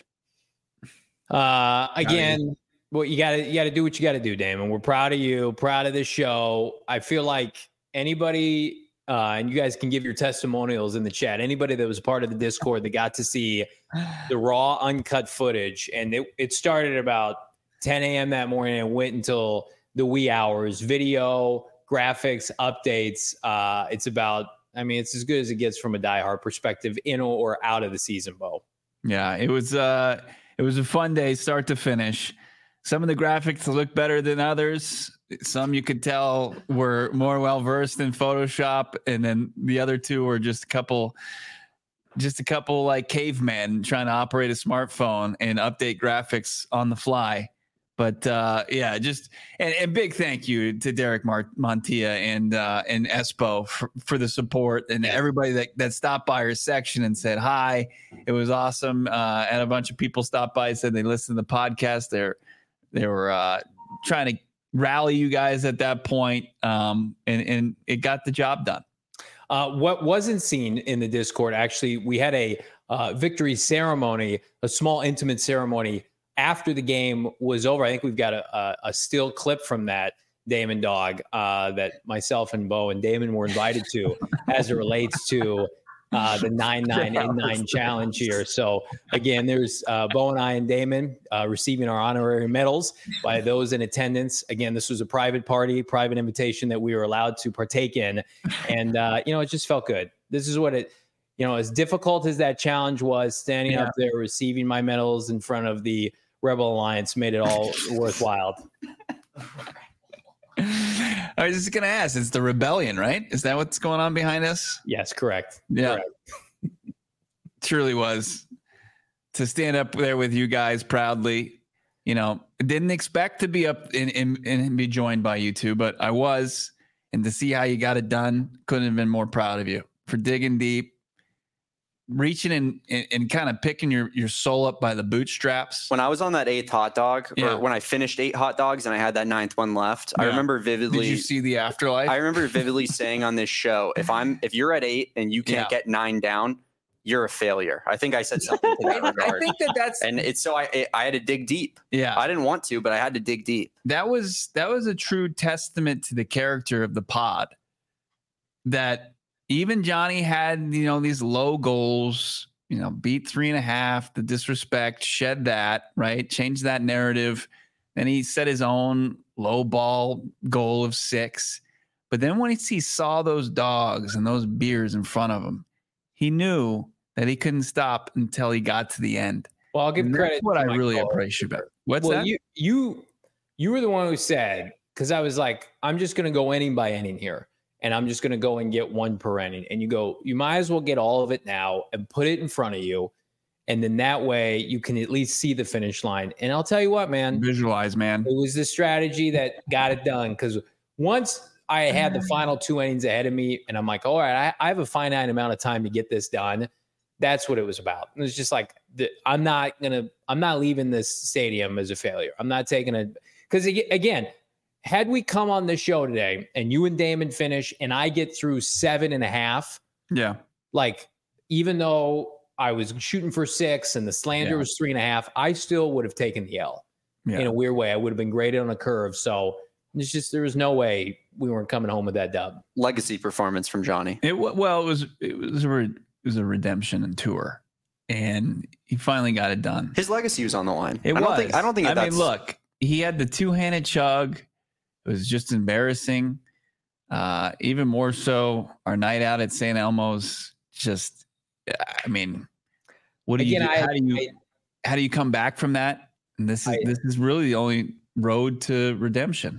Uh, again, well, you gotta you gotta do what you gotta do, Damon. We're proud of you, proud of this show. I feel like anybody, uh, and you guys can give your testimonials in the chat. Anybody that was part of the Discord that got to see the raw, uncut footage, and it, it started about ten a.m. that morning and went until the wee hours. Video, graphics, updates. Uh, it's about. I mean, it's as good as it gets from a diehard perspective, in or out of the season, Bo. Yeah, it was uh it was a fun day start to finish. Some of the graphics look better than others. Some you could tell were more well versed in Photoshop, and then the other two were just a couple just a couple like cavemen trying to operate a smartphone and update graphics on the fly. But uh, yeah, just and, and big thank you to Derek Mar- Montilla and uh, and Espo for, for the support and everybody that, that stopped by our section and said hi. It was awesome. Uh, and a bunch of people stopped by and said they listened to the podcast. They're they were uh, trying to rally you guys at that point, um, and and it got the job done. Uh, what wasn't seen in the Discord, actually, we had a uh, victory ceremony, a small intimate ceremony after the game was over. I think we've got a, a, a still clip from that, Damon Dog, uh, that myself and Bo and Damon were invited to as it relates to uh, the nine nine in nine challenge here. So again, there's uh, Bo and I and Damon uh, receiving our honorary medals by those in attendance. Again, this was a private party, private invitation that we were allowed to partake in. And, uh, you know, it just felt good. This is what it, you know, as difficult as that challenge was, standing Yeah. up there, receiving my medals in front of the Rebel Alliance made it all worthwhile. I was just going to ask, it's the rebellion, right? Is that what's going on behind us? Yes, correct. Yeah. Correct. Truly was. To stand up there with you guys proudly, you know, didn't expect to be up and, and, and be joined by you two, but I was. And to see how you got it done, couldn't have been more proud of you for digging deep, reaching in and, and kind of picking your, your soul up by the bootstraps. When I was on that eighth hot dog, Yeah. or when I finished eight hot dogs and I had that ninth one left, I Yeah. remember vividly. Did you see the afterlife? I remember vividly saying on this show, if I'm if you're at eight and you can't Yeah. get nine down, you're a failure. I think I said something to that I regard. think that that's And it's so I I had to dig deep. yeah. I didn't want to, but I had to dig deep. that was that was a true testament to the character of the pod. That even Johnny had, you know, these low goals, you know, beat three and a half, the disrespect, shed that, right? Change that narrative. Then he set his own low ball goal of six. But then when he saw those dogs and those beers in front of him, he knew that he couldn't stop until he got to the end. Well, I'll give And credit. that's what to I my really caller. appreciate about it. What's well, that? you you you were the one who said, because I was like, I'm just going to go inning by inning here, and I'm just going to go and get one per inning. And you go, you might as well get all of it now and put it in front of you, and then that way you can at least see the finish line. And I'll tell you what, man, Visualize, man. it was the strategy that got it done. Because once I had the final two innings ahead of me, and I'm like, all right, I, I have a finite amount of time to get this done. That's what it was about. It was just like, the, I'm not gonna, I'm not leaving this stadium as a failure. I'm not taking a, because again, had we come on this show today and you and Damon finish, and I get through seven and a half, Yeah. like even though I was shooting for six and the slander Yeah. was three and a half, I still would have taken the L. Yeah. In a weird way. I would have been graded on a curve. So it's just, there was no way we weren't coming home with that dub. Legacy performance from Johnny. It wa- well, it was it was a re, it was a redemption and tour, and he finally got it done. His legacy was on the line. It I was. don't think I don't think I that's mean, look, he had the two handed chug. It was just embarrassing. Uh, even more so, our night out at Saint Elmo's. Just, I mean, what do Again, you? Do? I- How do you? I- how do you come back from that? And this is I- this is really the only road to redemption.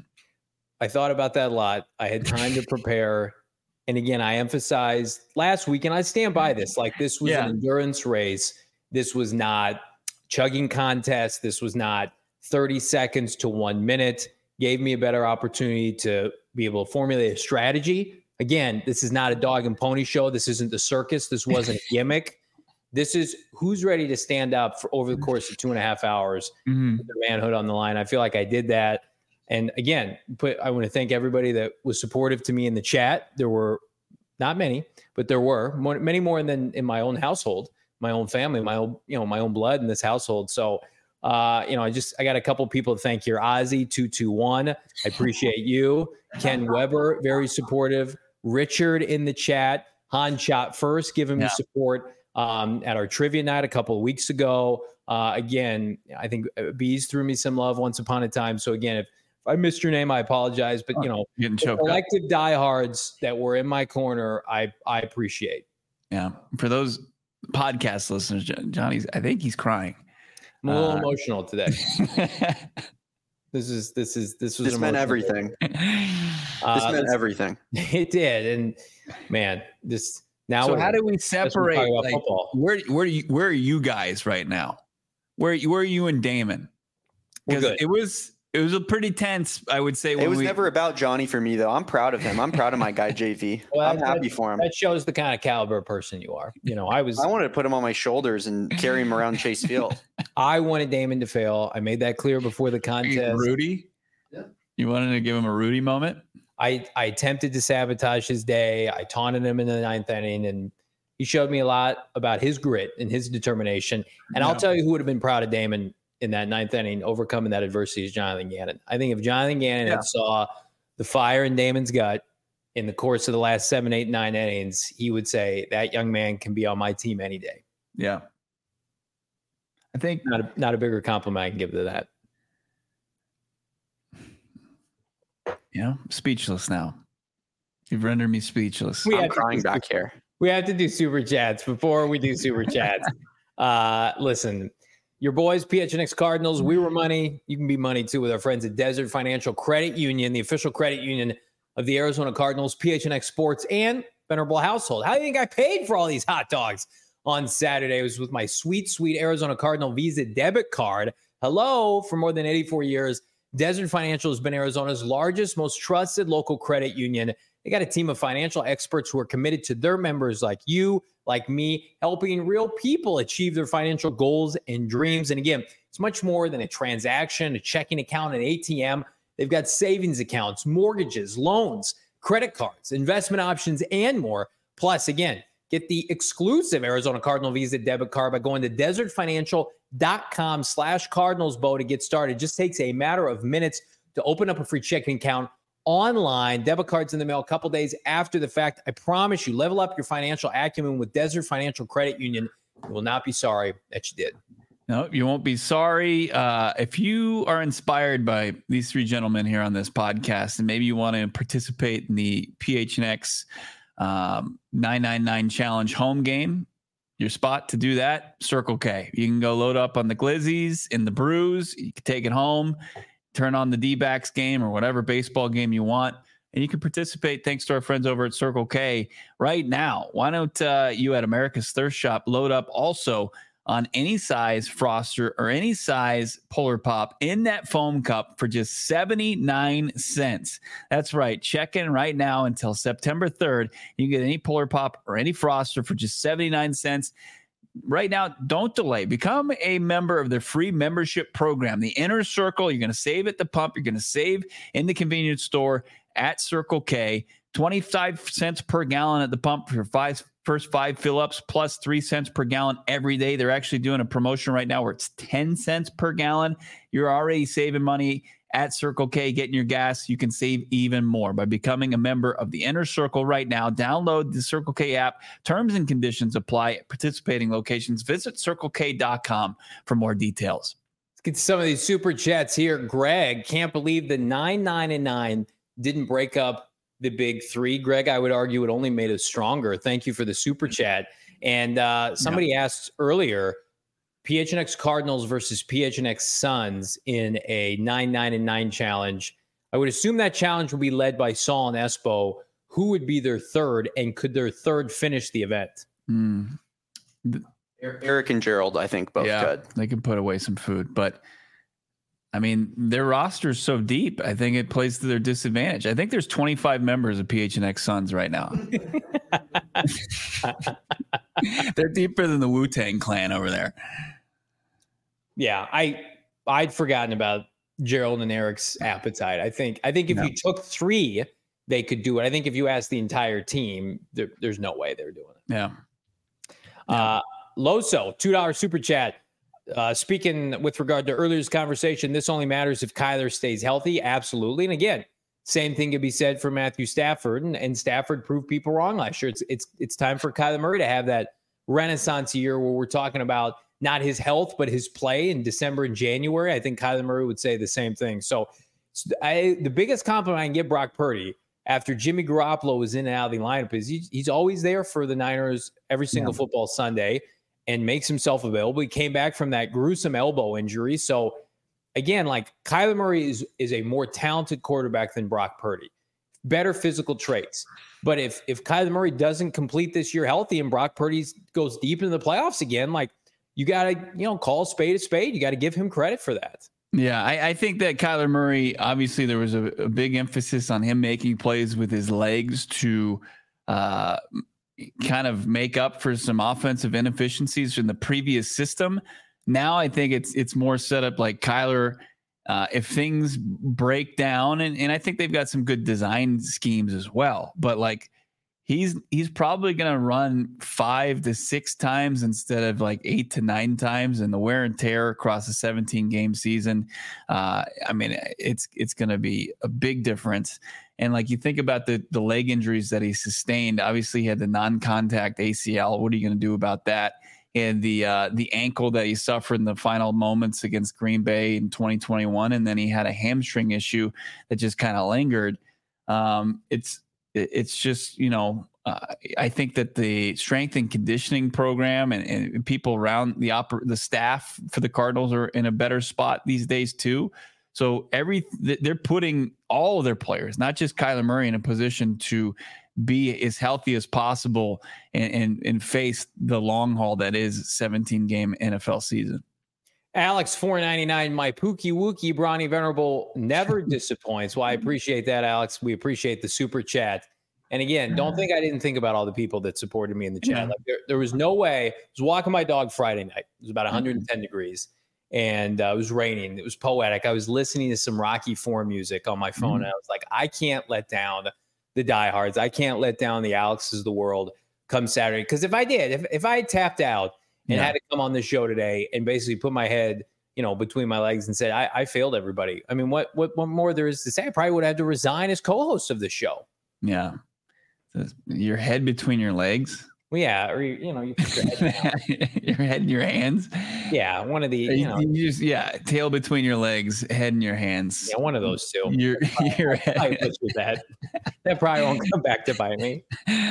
I thought about that a lot. I had time to prepare. And again, I emphasized last week, and I stand by this, like this was Yeah. an endurance race. This was not chugging contest. This was not thirty seconds to one minute. Gave me a better opportunity to be able to formulate a strategy. Again, this is not a dog and pony show. This isn't the circus. This wasn't a gimmick. This is who's ready to stand up for over the course of two and a half hours, Mhm. with their manhood on the line. I feel like I did that. And again, put, I want to thank everybody that was supportive to me in the chat. There were not many, but there were more, many more than in my own household, my own family, my own, you know, my own blood in this household. So, uh, you know, I just, I got a couple people to thank here. Ozzy two two one. I appreciate you. Ken Weber, very supportive. Richard in the chat. Han Shot First, giving me Yeah. support um, at our trivia night a couple of weeks ago. Uh, again, I think Bees threw me some love once upon a time. So again, if I missed your name, I apologize. But you know, Getting the choked up. collective diehards that were in my corner, I I appreciate. Yeah. For those podcast listeners, Jo- Johnny's, I think he's crying. I'm a little Uh, emotional today. This is this is this was this meant emotional. everything. Uh, This meant let's- everything. It did, and man, this now. so we're- how do we that's what we're separate? talking about Like, football. where where are you, where are you guys right now? Where where are you and Damon? We're Because good. it was it was a pretty tense, I would say. When It was we, never about Johnny for me though. I'm proud of him. I'm proud of my guy J V. Well, I'm that- happy for him. That shows the kind of caliber of person you are. You know, I was I wanted to put him on my shoulders and carry him around Chase Field. I wanted Damon to fail. I made that clear before the contest. Rudy. Yeah. You wanted to give him a Rudy moment. I, I attempted to sabotage his day. I taunted him in the ninth inning, and he showed me a lot about his grit and his determination. And I'll Yeah. tell you who would have been proud of Damon in that ninth inning, overcoming that adversity, is Jonathan Gannon. I think if Jonathan Gannon Yeah. had saw the fire in Damon's gut in the course of the last seven, eight, nine innings, he would say that young man can be on my team any day. Yeah. I think Not a, not a bigger compliment I can give to that. you know, speechless now. You've rendered me speechless. We I'm had- crying back here. We have to do super chats before we do super chats. Uh, listen, your boys, P H N X Cardinals, we were money. You can be money too with our friends at Desert Financial Credit Union, the official credit union of the Arizona Cardinals, P H N X Sports, and Venerable Household. How do you think I paid for all these hot dogs on Saturday? It was with my sweet, sweet Arizona Cardinal Visa debit card. Hello, for more than eighty-four years, Desert Financial has been Arizona's largest, most trusted local credit union. They got a team of financial experts who are committed to their members like you, like me, helping real people achieve their financial goals and dreams. And again, it's much more than a transaction, a checking account, an A T M. They've got savings accounts, mortgages, loans, credit cards, investment options, and more. Plus, again, get the exclusive Arizona Cardinal Visa debit card by going to desertfinancial.com slash Cardinals Bow to get started. It just takes a matter of minutes to open up a free checking account online. Debit cards in the mail a couple days after the fact. I promise you, level up your financial acumen with Desert Financial Credit Union. You will not be sorry that you did. No, you won't be sorry. Uh, if you are inspired by these three gentlemen here on this podcast, and maybe you want to participate in the P H N X um, nine ninety-nine Challenge home game, your spot to do that, Circle K. You can go load up on the Glizzies and the Brews. You can take it home, turn on the D-backs game or whatever baseball game you want, and you can participate thanks to our friends over at Circle K right now. Why don't uh, you at America's Thirst Shop load up also on any size Froster or any size Polar Pop in that foam cup for just seventy-nine cents. That's right. Check in right now until September third. You can get any Polar Pop or any Froster for just seventy-nine cents. Right now, don't delay. Become a member of their free membership program, the Inner Circle. You're going to save at the pump. You're going to save in the convenience store at Circle K. twenty-five cents per gallon at the pump for your five, first five fill-ups, plus three cents per gallon every day. They're actually doing a promotion right now where it's ten cents per gallon. You're already saving money at Circle K, getting your gas. You can save even more by becoming a member of the Inner Circle right now. Download the Circle K app. Terms and conditions apply at participating locations. Visit circle k dot com for more details. Let's get to some of these super chats here. Greg, can't believe the nine ninety-nine didn't break up the big three. Greg, I would argue it only made us stronger. Thank you for the super chat. And uh, somebody yeah. asked earlier, P H N X Cardinals versus P H N X Suns in a nine ninety-nine challenge. I would assume that challenge would be led by Saul and Espo. Who would be their third, and could their third finish the event? Mm. Eric and Gerald, I think, both yeah, could. They could put away some food, but I mean, their roster is so deep. I think it plays to their disadvantage. I think there's twenty-five members of P H N X Suns right now. They're deeper than the Wu-Tang Clan over there. Yeah, I I'd forgotten about Gerald and Eric's appetite. I think I think if no. you took three, they could do it. I think if you asked the entire team, there, there's no way they're doing it. Yeah. Uh, Loso, two dollar super chat. Uh, speaking with regard to earlier's conversation, this only matters if Kyler stays healthy. Absolutely. And again, same thing could be said for Matthew Stafford, and, and Stafford proved people wrong last year. It's it's it's time for Kyler Murray to have that renaissance year where we're talking about not his health, but his play in December and January. I think Kyler Murray would say the same thing. So I, the biggest compliment I can give Brock Purdy after Jimmy Garoppolo was in and out of the lineup is he, he's always there for the Niners every single yeah. football Sunday and makes himself available. He came back from that gruesome elbow injury. So again, like Kyler Murray is, is a more talented quarterback than Brock Purdy, better physical traits. But if, if Kyler Murray doesn't complete this year healthy and Brock Purdy goes deep into the playoffs again, like you got to, you know, call a spade a spade. You got to give him credit for that. Yeah, I, I think that Kyler Murray, obviously there was a, a big emphasis on him making plays with his legs to uh, kind of make up for some offensive inefficiencies from the previous system. Now I think it's it's more set up like Kyler, uh, if things break down, and, and I think they've got some good design schemes as well, but like he's he's probably going to run five to six times instead of like eight to nine times, and the wear and tear across a seventeen game season. Uh, I mean, it's it's going to be a big difference. And like you think about the the leg injuries that he sustained, obviously he had the non-contact A C L. What are you going to do about that? And the uh, the ankle that he suffered in the final moments against Green Bay in twenty twenty-one, and then he had a hamstring issue that just kind of lingered. Um, it's it's just, you know, Uh, I think that the strength and conditioning program and, and people around the oper- the staff for the Cardinals are in a better spot these days too. So every they're putting all of their players, not just Kyler Murray, in a position to be as healthy as possible and, and, and face the long haul that is seventeen game N F L season. Alex four ninety-nine, my Pookie Wookie Bronny Venerable never disappoints. Well, I appreciate that, Alex. We appreciate the super chat. And again, don't think I didn't think about all the people that supported me in the chat. Yeah. Like there, there was no way. I was walking my dog Friday night. It was about one hundred ten degrees, and uh, it was raining. It was poetic. I was listening to some Rocky four music on my phone, mm-hmm. and I was like, I can't let down the diehards. I can't let down the Alexes of the world come Saturday. Because if I did, if if I had tapped out and yeah. had to come on the show today and basically put my head, you know, between my legs and said, I, I failed everybody. I mean, what, what what more there is to say? I probably would have to resign as co-host of the show. Yeah. Your head between your legs. Well, yeah, or you know, you put your head down. Your head in your hands. Yeah, one of the you, you know, you just yeah, tail between your legs, head in your hands. Yeah, one of those two. Your your head. I with that. That probably won't come back to bite me.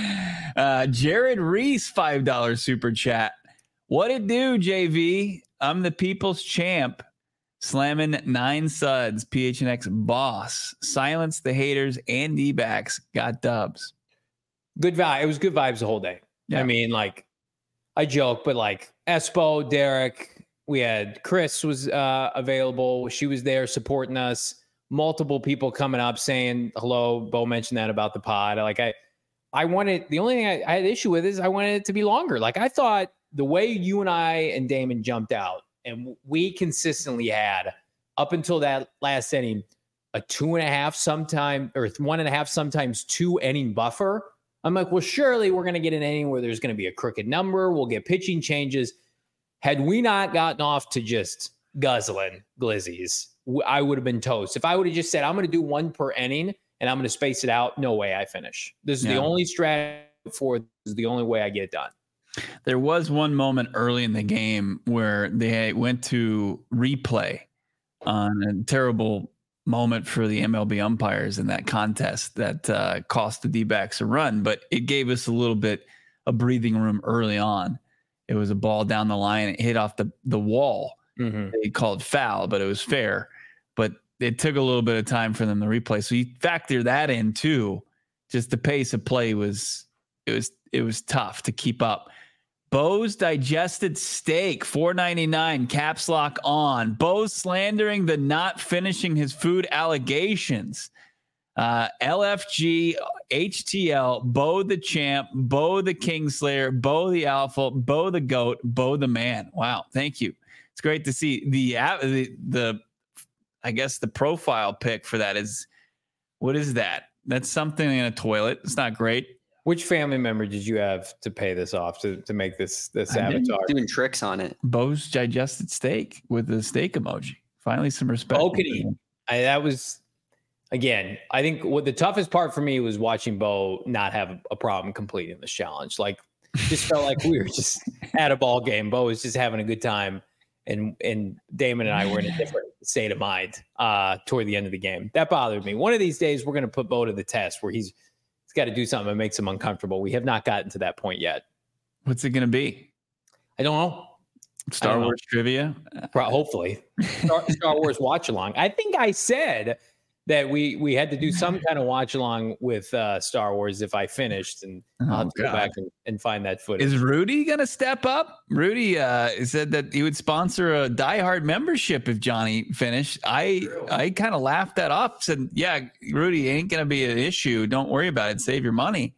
Uh, Jared Reese, five dollar super chat. What it do, J V? I'm the people's champ. Slamming nine suds. P H N X boss. Silence the haters and D-backs. Got dubs. Good vibe. It was good vibes the whole day. Yeah. I mean, like, I joke, but like Espo, Derek, we had Chris was uh, available. She was there supporting us. Multiple people coming up saying hello. Bo mentioned that about the pod. Like, I, I wanted the only thing I, I had issue with is I wanted it to be longer. Like, I thought the way you and I and Damon jumped out, and we consistently had up until that last inning a two and a half, sometime or one and a half, sometimes two inning buffer. I'm like, well, surely we're going to get an inning where there's going to be a crooked number. We'll get pitching changes. Had we not gotten off to just guzzling glizzies, I would have been toast. If I would have just said, I'm going to do one per inning and I'm going to space it out, no way I finish. This is yeah. the only strategy for this is the only way I get it done. There was one moment early in the game where they went to replay on a terrible moment for the M L B umpires in that contest that uh, cost the D-backs a run, but it gave us a little bit of breathing room early on. It was a ball down the line. It hit off the, the wall. Mm-hmm. They called foul, but it was fair. But it took a little bit of time for them to replay. So you factor that in too. Just the pace of play was it was it was tough to keep up. Bo's digested steak, four ninety-nine, caps lock on. Bo's slandering the not finishing his food allegations. Uh, L F G, H T L, Bo the champ, Bo the Kingslayer, Bo the alpha, Bo the goat, Bo the man. Wow, thank you. It's great to see the the the. I guess the profile pic for that is what is that? That's something in a toilet. It's not great. Which family member did you have to pay this off to, to make this this I avatar? Doing tricks on it. Bo's digested steak with the steak emoji. Finally, some respect. Okay, I, that was again. I think what the toughest part for me was watching Bo not have a problem completing this challenge. Like, just felt like we were just at a ball game. Bo was just having a good time, and and Damon and I were in a different state of mind uh, toward the end of the game. That bothered me. One of these days, we're going to put Bo to the test where he's. Got to do something that makes him uncomfortable. We have not gotten to that point yet. What's it going to be? I don't know. Star don't Wars know. trivia? Pro- hopefully. Star, Star Wars watch along. I think I said that we we had to do some kind of watch along with uh, Star Wars if I finished, and oh, I'll have to God. go back and, and find that footage. Is Rudy going to step up? Rudy uh, said that he would sponsor a diehard membership if Johnny finished. I I kind of laughed that off. Said, yeah, Rudy, ain't going to be an issue. Don't worry about it. Save your money.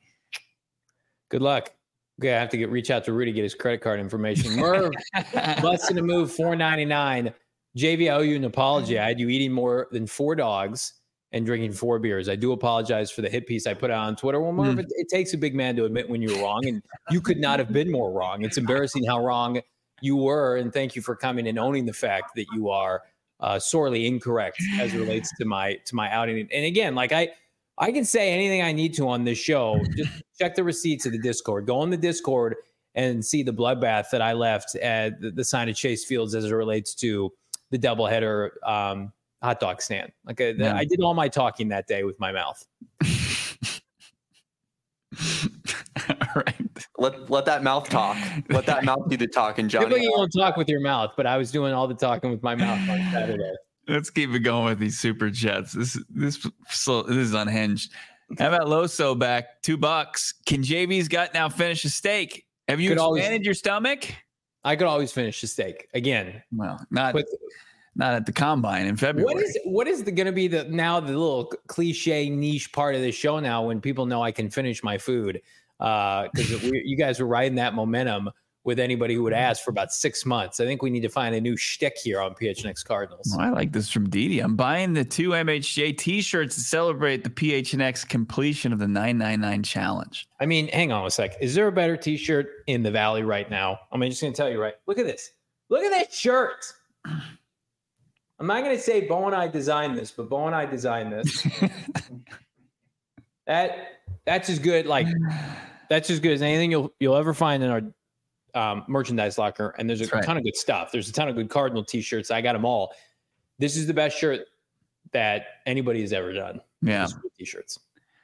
Good luck. Okay, I have to get reach out to Rudy, get his credit card information. Merv, busting to move four ninety-nine. J V, I owe you an apology. I had you eating more than four dogs and drinking four beers. I do apologize for the hit piece I put out on Twitter. Well, Merv, mm. it, it takes a big man to admit when you were wrong, and you could not have been more wrong. It's embarrassing how wrong you were, and thank you for coming and owning the fact that you are uh, sorely incorrect as it relates to my to my outing. And again, like I, I can say anything I need to on this show. Just check the receipts of the Discord. Go on the Discord and see the bloodbath that I left at the, the sign of Chase Fields as it relates to the doubleheader um, hot dog stand. Like I, yeah. I did all my talking that day with my mouth. right. Let let that mouth talk. Let that mouth do the talking, Johnny. Typically, you don't talk with your mouth, but I was doing all the talking with my mouth on Saturday. Let's keep it going with these super chats. This this so this is unhinged. How about Loso back two bucks? Can J V's gut now finish a steak? Have you Could expanded always- your stomach? I could always finish the steak again. Well, not But not at the combine in February. what is what is going to be the now the little cliche niche part of the show now when people know I can finish my food? Because uh, you guys were riding that momentum with anybody who would ask for about six months. I think we need to find a new shtick here on P H N X Cardinals. Oh, I like this from Didi. I'm buying the two M H J t-shirts to celebrate the P H N X completion of the nine ninety-nine challenge. I mean, hang on a sec. Is there a better T-shirt in the Valley right now? I'm just going to tell you right. Look at this. Look at that shirt. I'm not going to say Bo and I designed this, but Bo and I designed this. that that's as good. Like that's as good as anything you'll you'll ever find in our um, merchandise locker. And there's a right. ton of good stuff. There's a ton of good Cardinal T-shirts. I got them all. This is the best shirt that anybody has ever done. Yeah. T-shirts.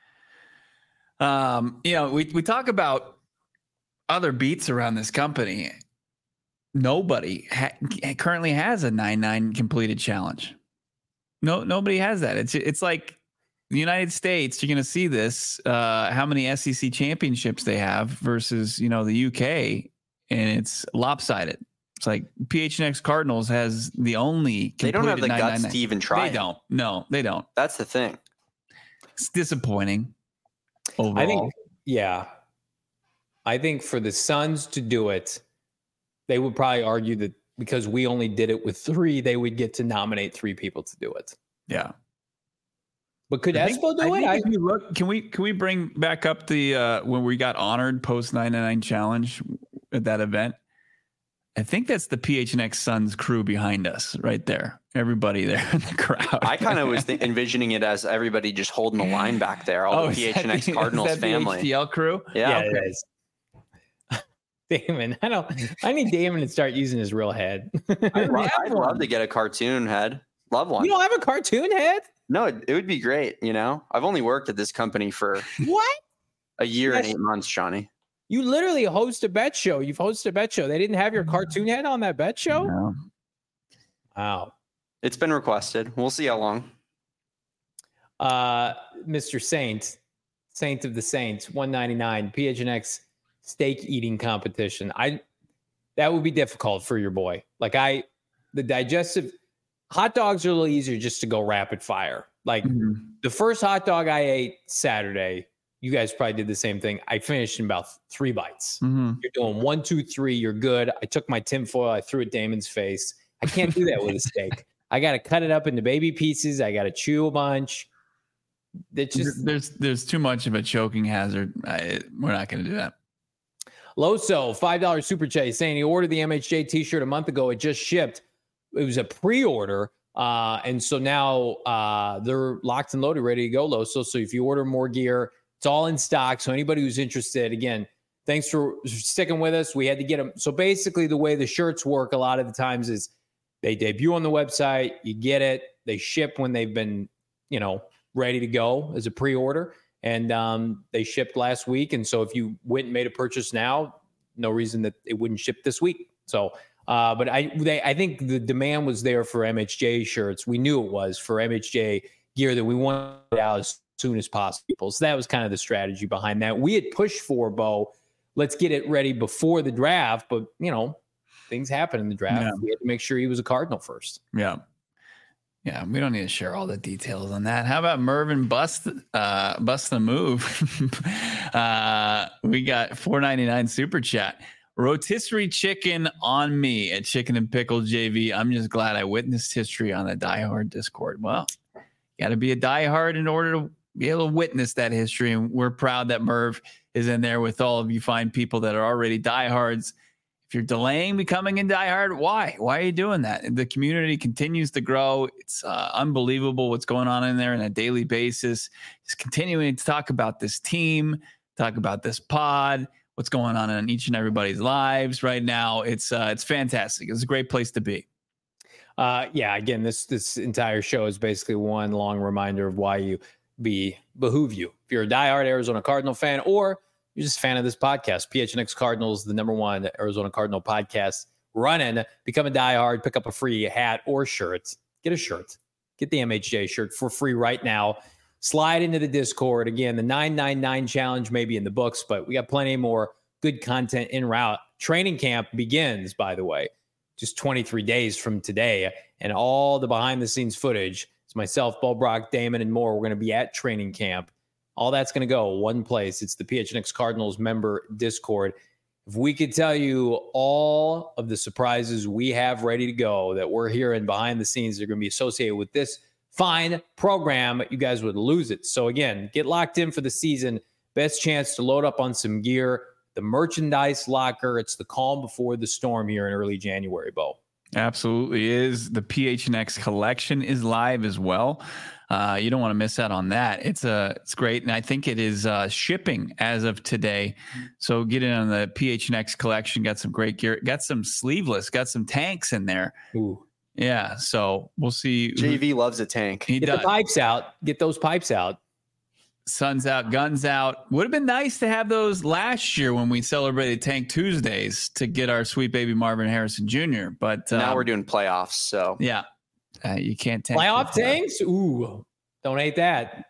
Um, you know, we, we talk about other beats around this company. Nobody ha- currently has a nine nine completed challenge. No, nobody has that. It's it's like the United States. You're going to see this. Uh, how many S E C championships they have versus you know the U K, and it's lopsided. It's like P H N X Cardinals has the only. They don't have the nine nine nine. guts to even try. They don't. No, they don't. That's the thing. It's disappointing. Overall. I think, yeah. I think for the Suns to do it, they would probably argue that because we only did it with three, they would get to nominate three people to do it. Yeah. But could I think- Espo do I it? think I, if you look, can we can we bring back up the uh, when we got honored post nine ninety-nine challenge at that event? I think that's the P H N X Suns crew behind us right there. Everybody there in the crowd. I kind of was th- envisioning it as everybody just holding the line back there, all Oh, the is P H that N X the- Cardinals is that the family. H D L crew. Yeah. yeah, it is. Damon, I don't. I need Damon to start using his real head. I'd, lo- I'd love to get a cartoon head. Love one. You don't have a cartoon head? No, it, it would be great. You know, I've only worked at this company for What? a year Yes. and eight months, Johnny. You literally host a bet show. You've hosted a bet show. They didn't have your cartoon head on that bet show? No. Wow. It's been requested. We'll see how long. Uh, Mister Saint, Saint of the Saints, one ninety-nine, P H N X steak eating competition. I that would be difficult for your boy. Like I, the digestive hot dogs are a little easier just to go rapid fire. Like Mhm. the first hot dog I ate Saturday, you guys probably did the same thing. I finished in about three bites. Mhm. You're doing one, two, three. You're good. I took my tinfoil. I threw it Damon's face. I can't do that with a steak. I got to cut it up into baby pieces. I got to chew a bunch. It's just there's there's too much of a choking hazard. I, we're not going to do that. Loso, five dollars super chat saying he ordered the M H J t-shirt a month ago. It just shipped. It was a pre-order. Uh, and so now uh, they're locked and loaded, ready to go, Loso. So if you order more gear, it's all in stock. So anybody who's interested, again, thanks for sticking with us. We had to get them. So basically the way the shirts work a lot of the times is they debut on the website, you get it, they ship when they've been, you know, ready to go as a pre-order. And um, they shipped last week. And so if you went and made a purchase now, no reason that it wouldn't ship this week. So, uh, but I, they, I think the demand was there for M H J shirts. We knew it was for M H J gear that we wanted out as soon as possible. So that was kind of the strategy behind that. We had pushed for, Bo, let's get it ready before the draft. But, you know, things happen in the draft. Yeah. We had to make sure he was a Cardinal first. Yeah. Yeah, we don't need to share all the details on that. How about Mervin bust uh bust the move? uh we got four ninety-nine super chat. Rotisserie chicken on me at Chicken and Pickle J V. I'm just glad I witnessed history on the Die Hard Discord. Well, you got to be a diehard in order to be able to witness that history. And we're proud that Merv is in there with all of you fine people that are already diehards. If you're delaying becoming a diehard, why? Why are you doing that? The community continues to grow. It's uh, unbelievable what's going on in there on a daily basis. Just continuing to talk about this team, talk about this pod, what's going on in each and everybody's lives right now. It's uh, it's fantastic. It's a great place to be. Uh, yeah, again, this this entire show is basically one long reminder of why you be behoove you. If you're a diehard Arizona Cardinal fan, or you're just a fan of this podcast. P H N X Cardinals, the number one Arizona Cardinal podcast running. Become a diehard, pick up a free hat or shirt. Get a shirt. Get the M H J shirt for free right now. Slide into the Discord. Again, the nine nine nine challenge may be in the books, but we got plenty more good content en route. Training camp begins, by the way, just twenty-three days from today. And all the behind-the-scenes footage, it's myself, Bo Brock, Damon, and more. We're going to be at training camp. All that's going to go one place. It's the P H N X Cardinals member Discord. If we could tell you all of the surprises we have ready to go that we're hearing behind the scenes that are going to be associated with this fine program, you guys would lose it. So again, get locked in for the season. Best chance to load up on some gear. The merchandise locker. It's the calm before the storm here in early January, Bo. Absolutely is. The P H N X collection is live as well. Uh, you don't want to miss out on that. It's a, it's great. And I think it is uh, shipping as of today. So get in on the P H N X collection. Got some great gear. Got some sleeveless. Got some tanks in there. Ooh. Yeah. So we'll see. J V loves a tank. He Get does. the pipes out. Get those pipes out. Sun's out, guns out. Would have been nice to have those last year when we celebrated Tank Tuesdays to get our sweet baby Marvin Harrison Junior But Now um, we're doing playoffs. So yeah, uh, you can't tank Playoff tanks? Ooh, don't hate that.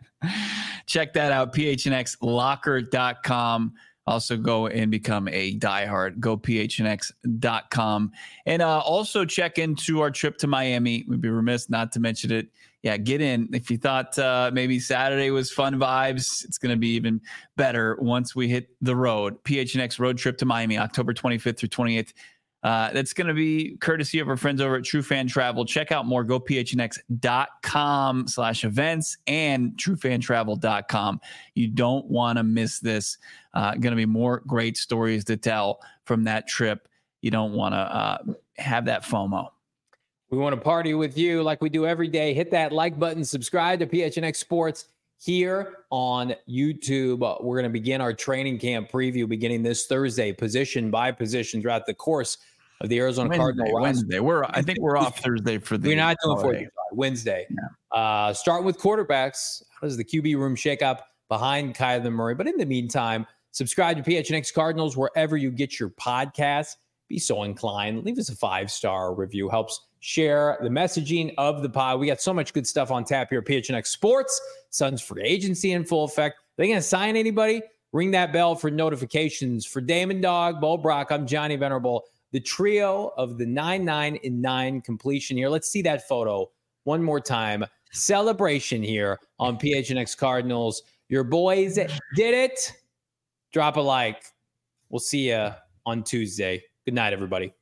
Check that out, P H N X locker dot com. Also go and become a diehard. Go P H N X dot com. And uh, also check into our trip to Miami. We'd be remiss not to mention it. Yeah, get in. If you thought uh, maybe Saturday was fun vibes, it's going to be even better once we hit the road. P H N X road trip to Miami, October twenty-fifth through twenty-eighth. Uh, that's going to be courtesy of our friends over at True Fan Travel. Check out more. Go P H N X dot com slash events and True Fan Travel dot com. You don't want to miss this. Uh, going to be more great stories to tell from that trip. You don't want to uh, have that FOMO. We want to party with you like we do every day. Hit that like button. Subscribe to P H N X Sports here on YouTube. Uh, we're going to begin our training camp preview beginning this Thursday, position by position throughout the course of the Arizona Wednesday, Cardinal roster. Wednesday. We're I think we're off Thursday for the. We're not doing holiday. for Wednesday. Yeah. Uh, starting with quarterbacks. How does the Q B room shake up behind Kyler Murray? But in the meantime, subscribe to P H N X Cardinals wherever you get your podcasts. Be so inclined. Leave us a five-star review. Helps share the messaging of the pod. We got so much good stuff on tap here at P H N X Sports. Suns free agency in full effect. Are they going to sign anybody? Ring that bell for notifications. For Damon Dog, Bo Brock, I'm Johnny Venerable. The trio of the nine nine and nine completion here. Let's see that photo one more time. Celebration here on P H N X Cardinals. Your boys did it. Drop a like. We'll see you on Tuesday. Good night, everybody.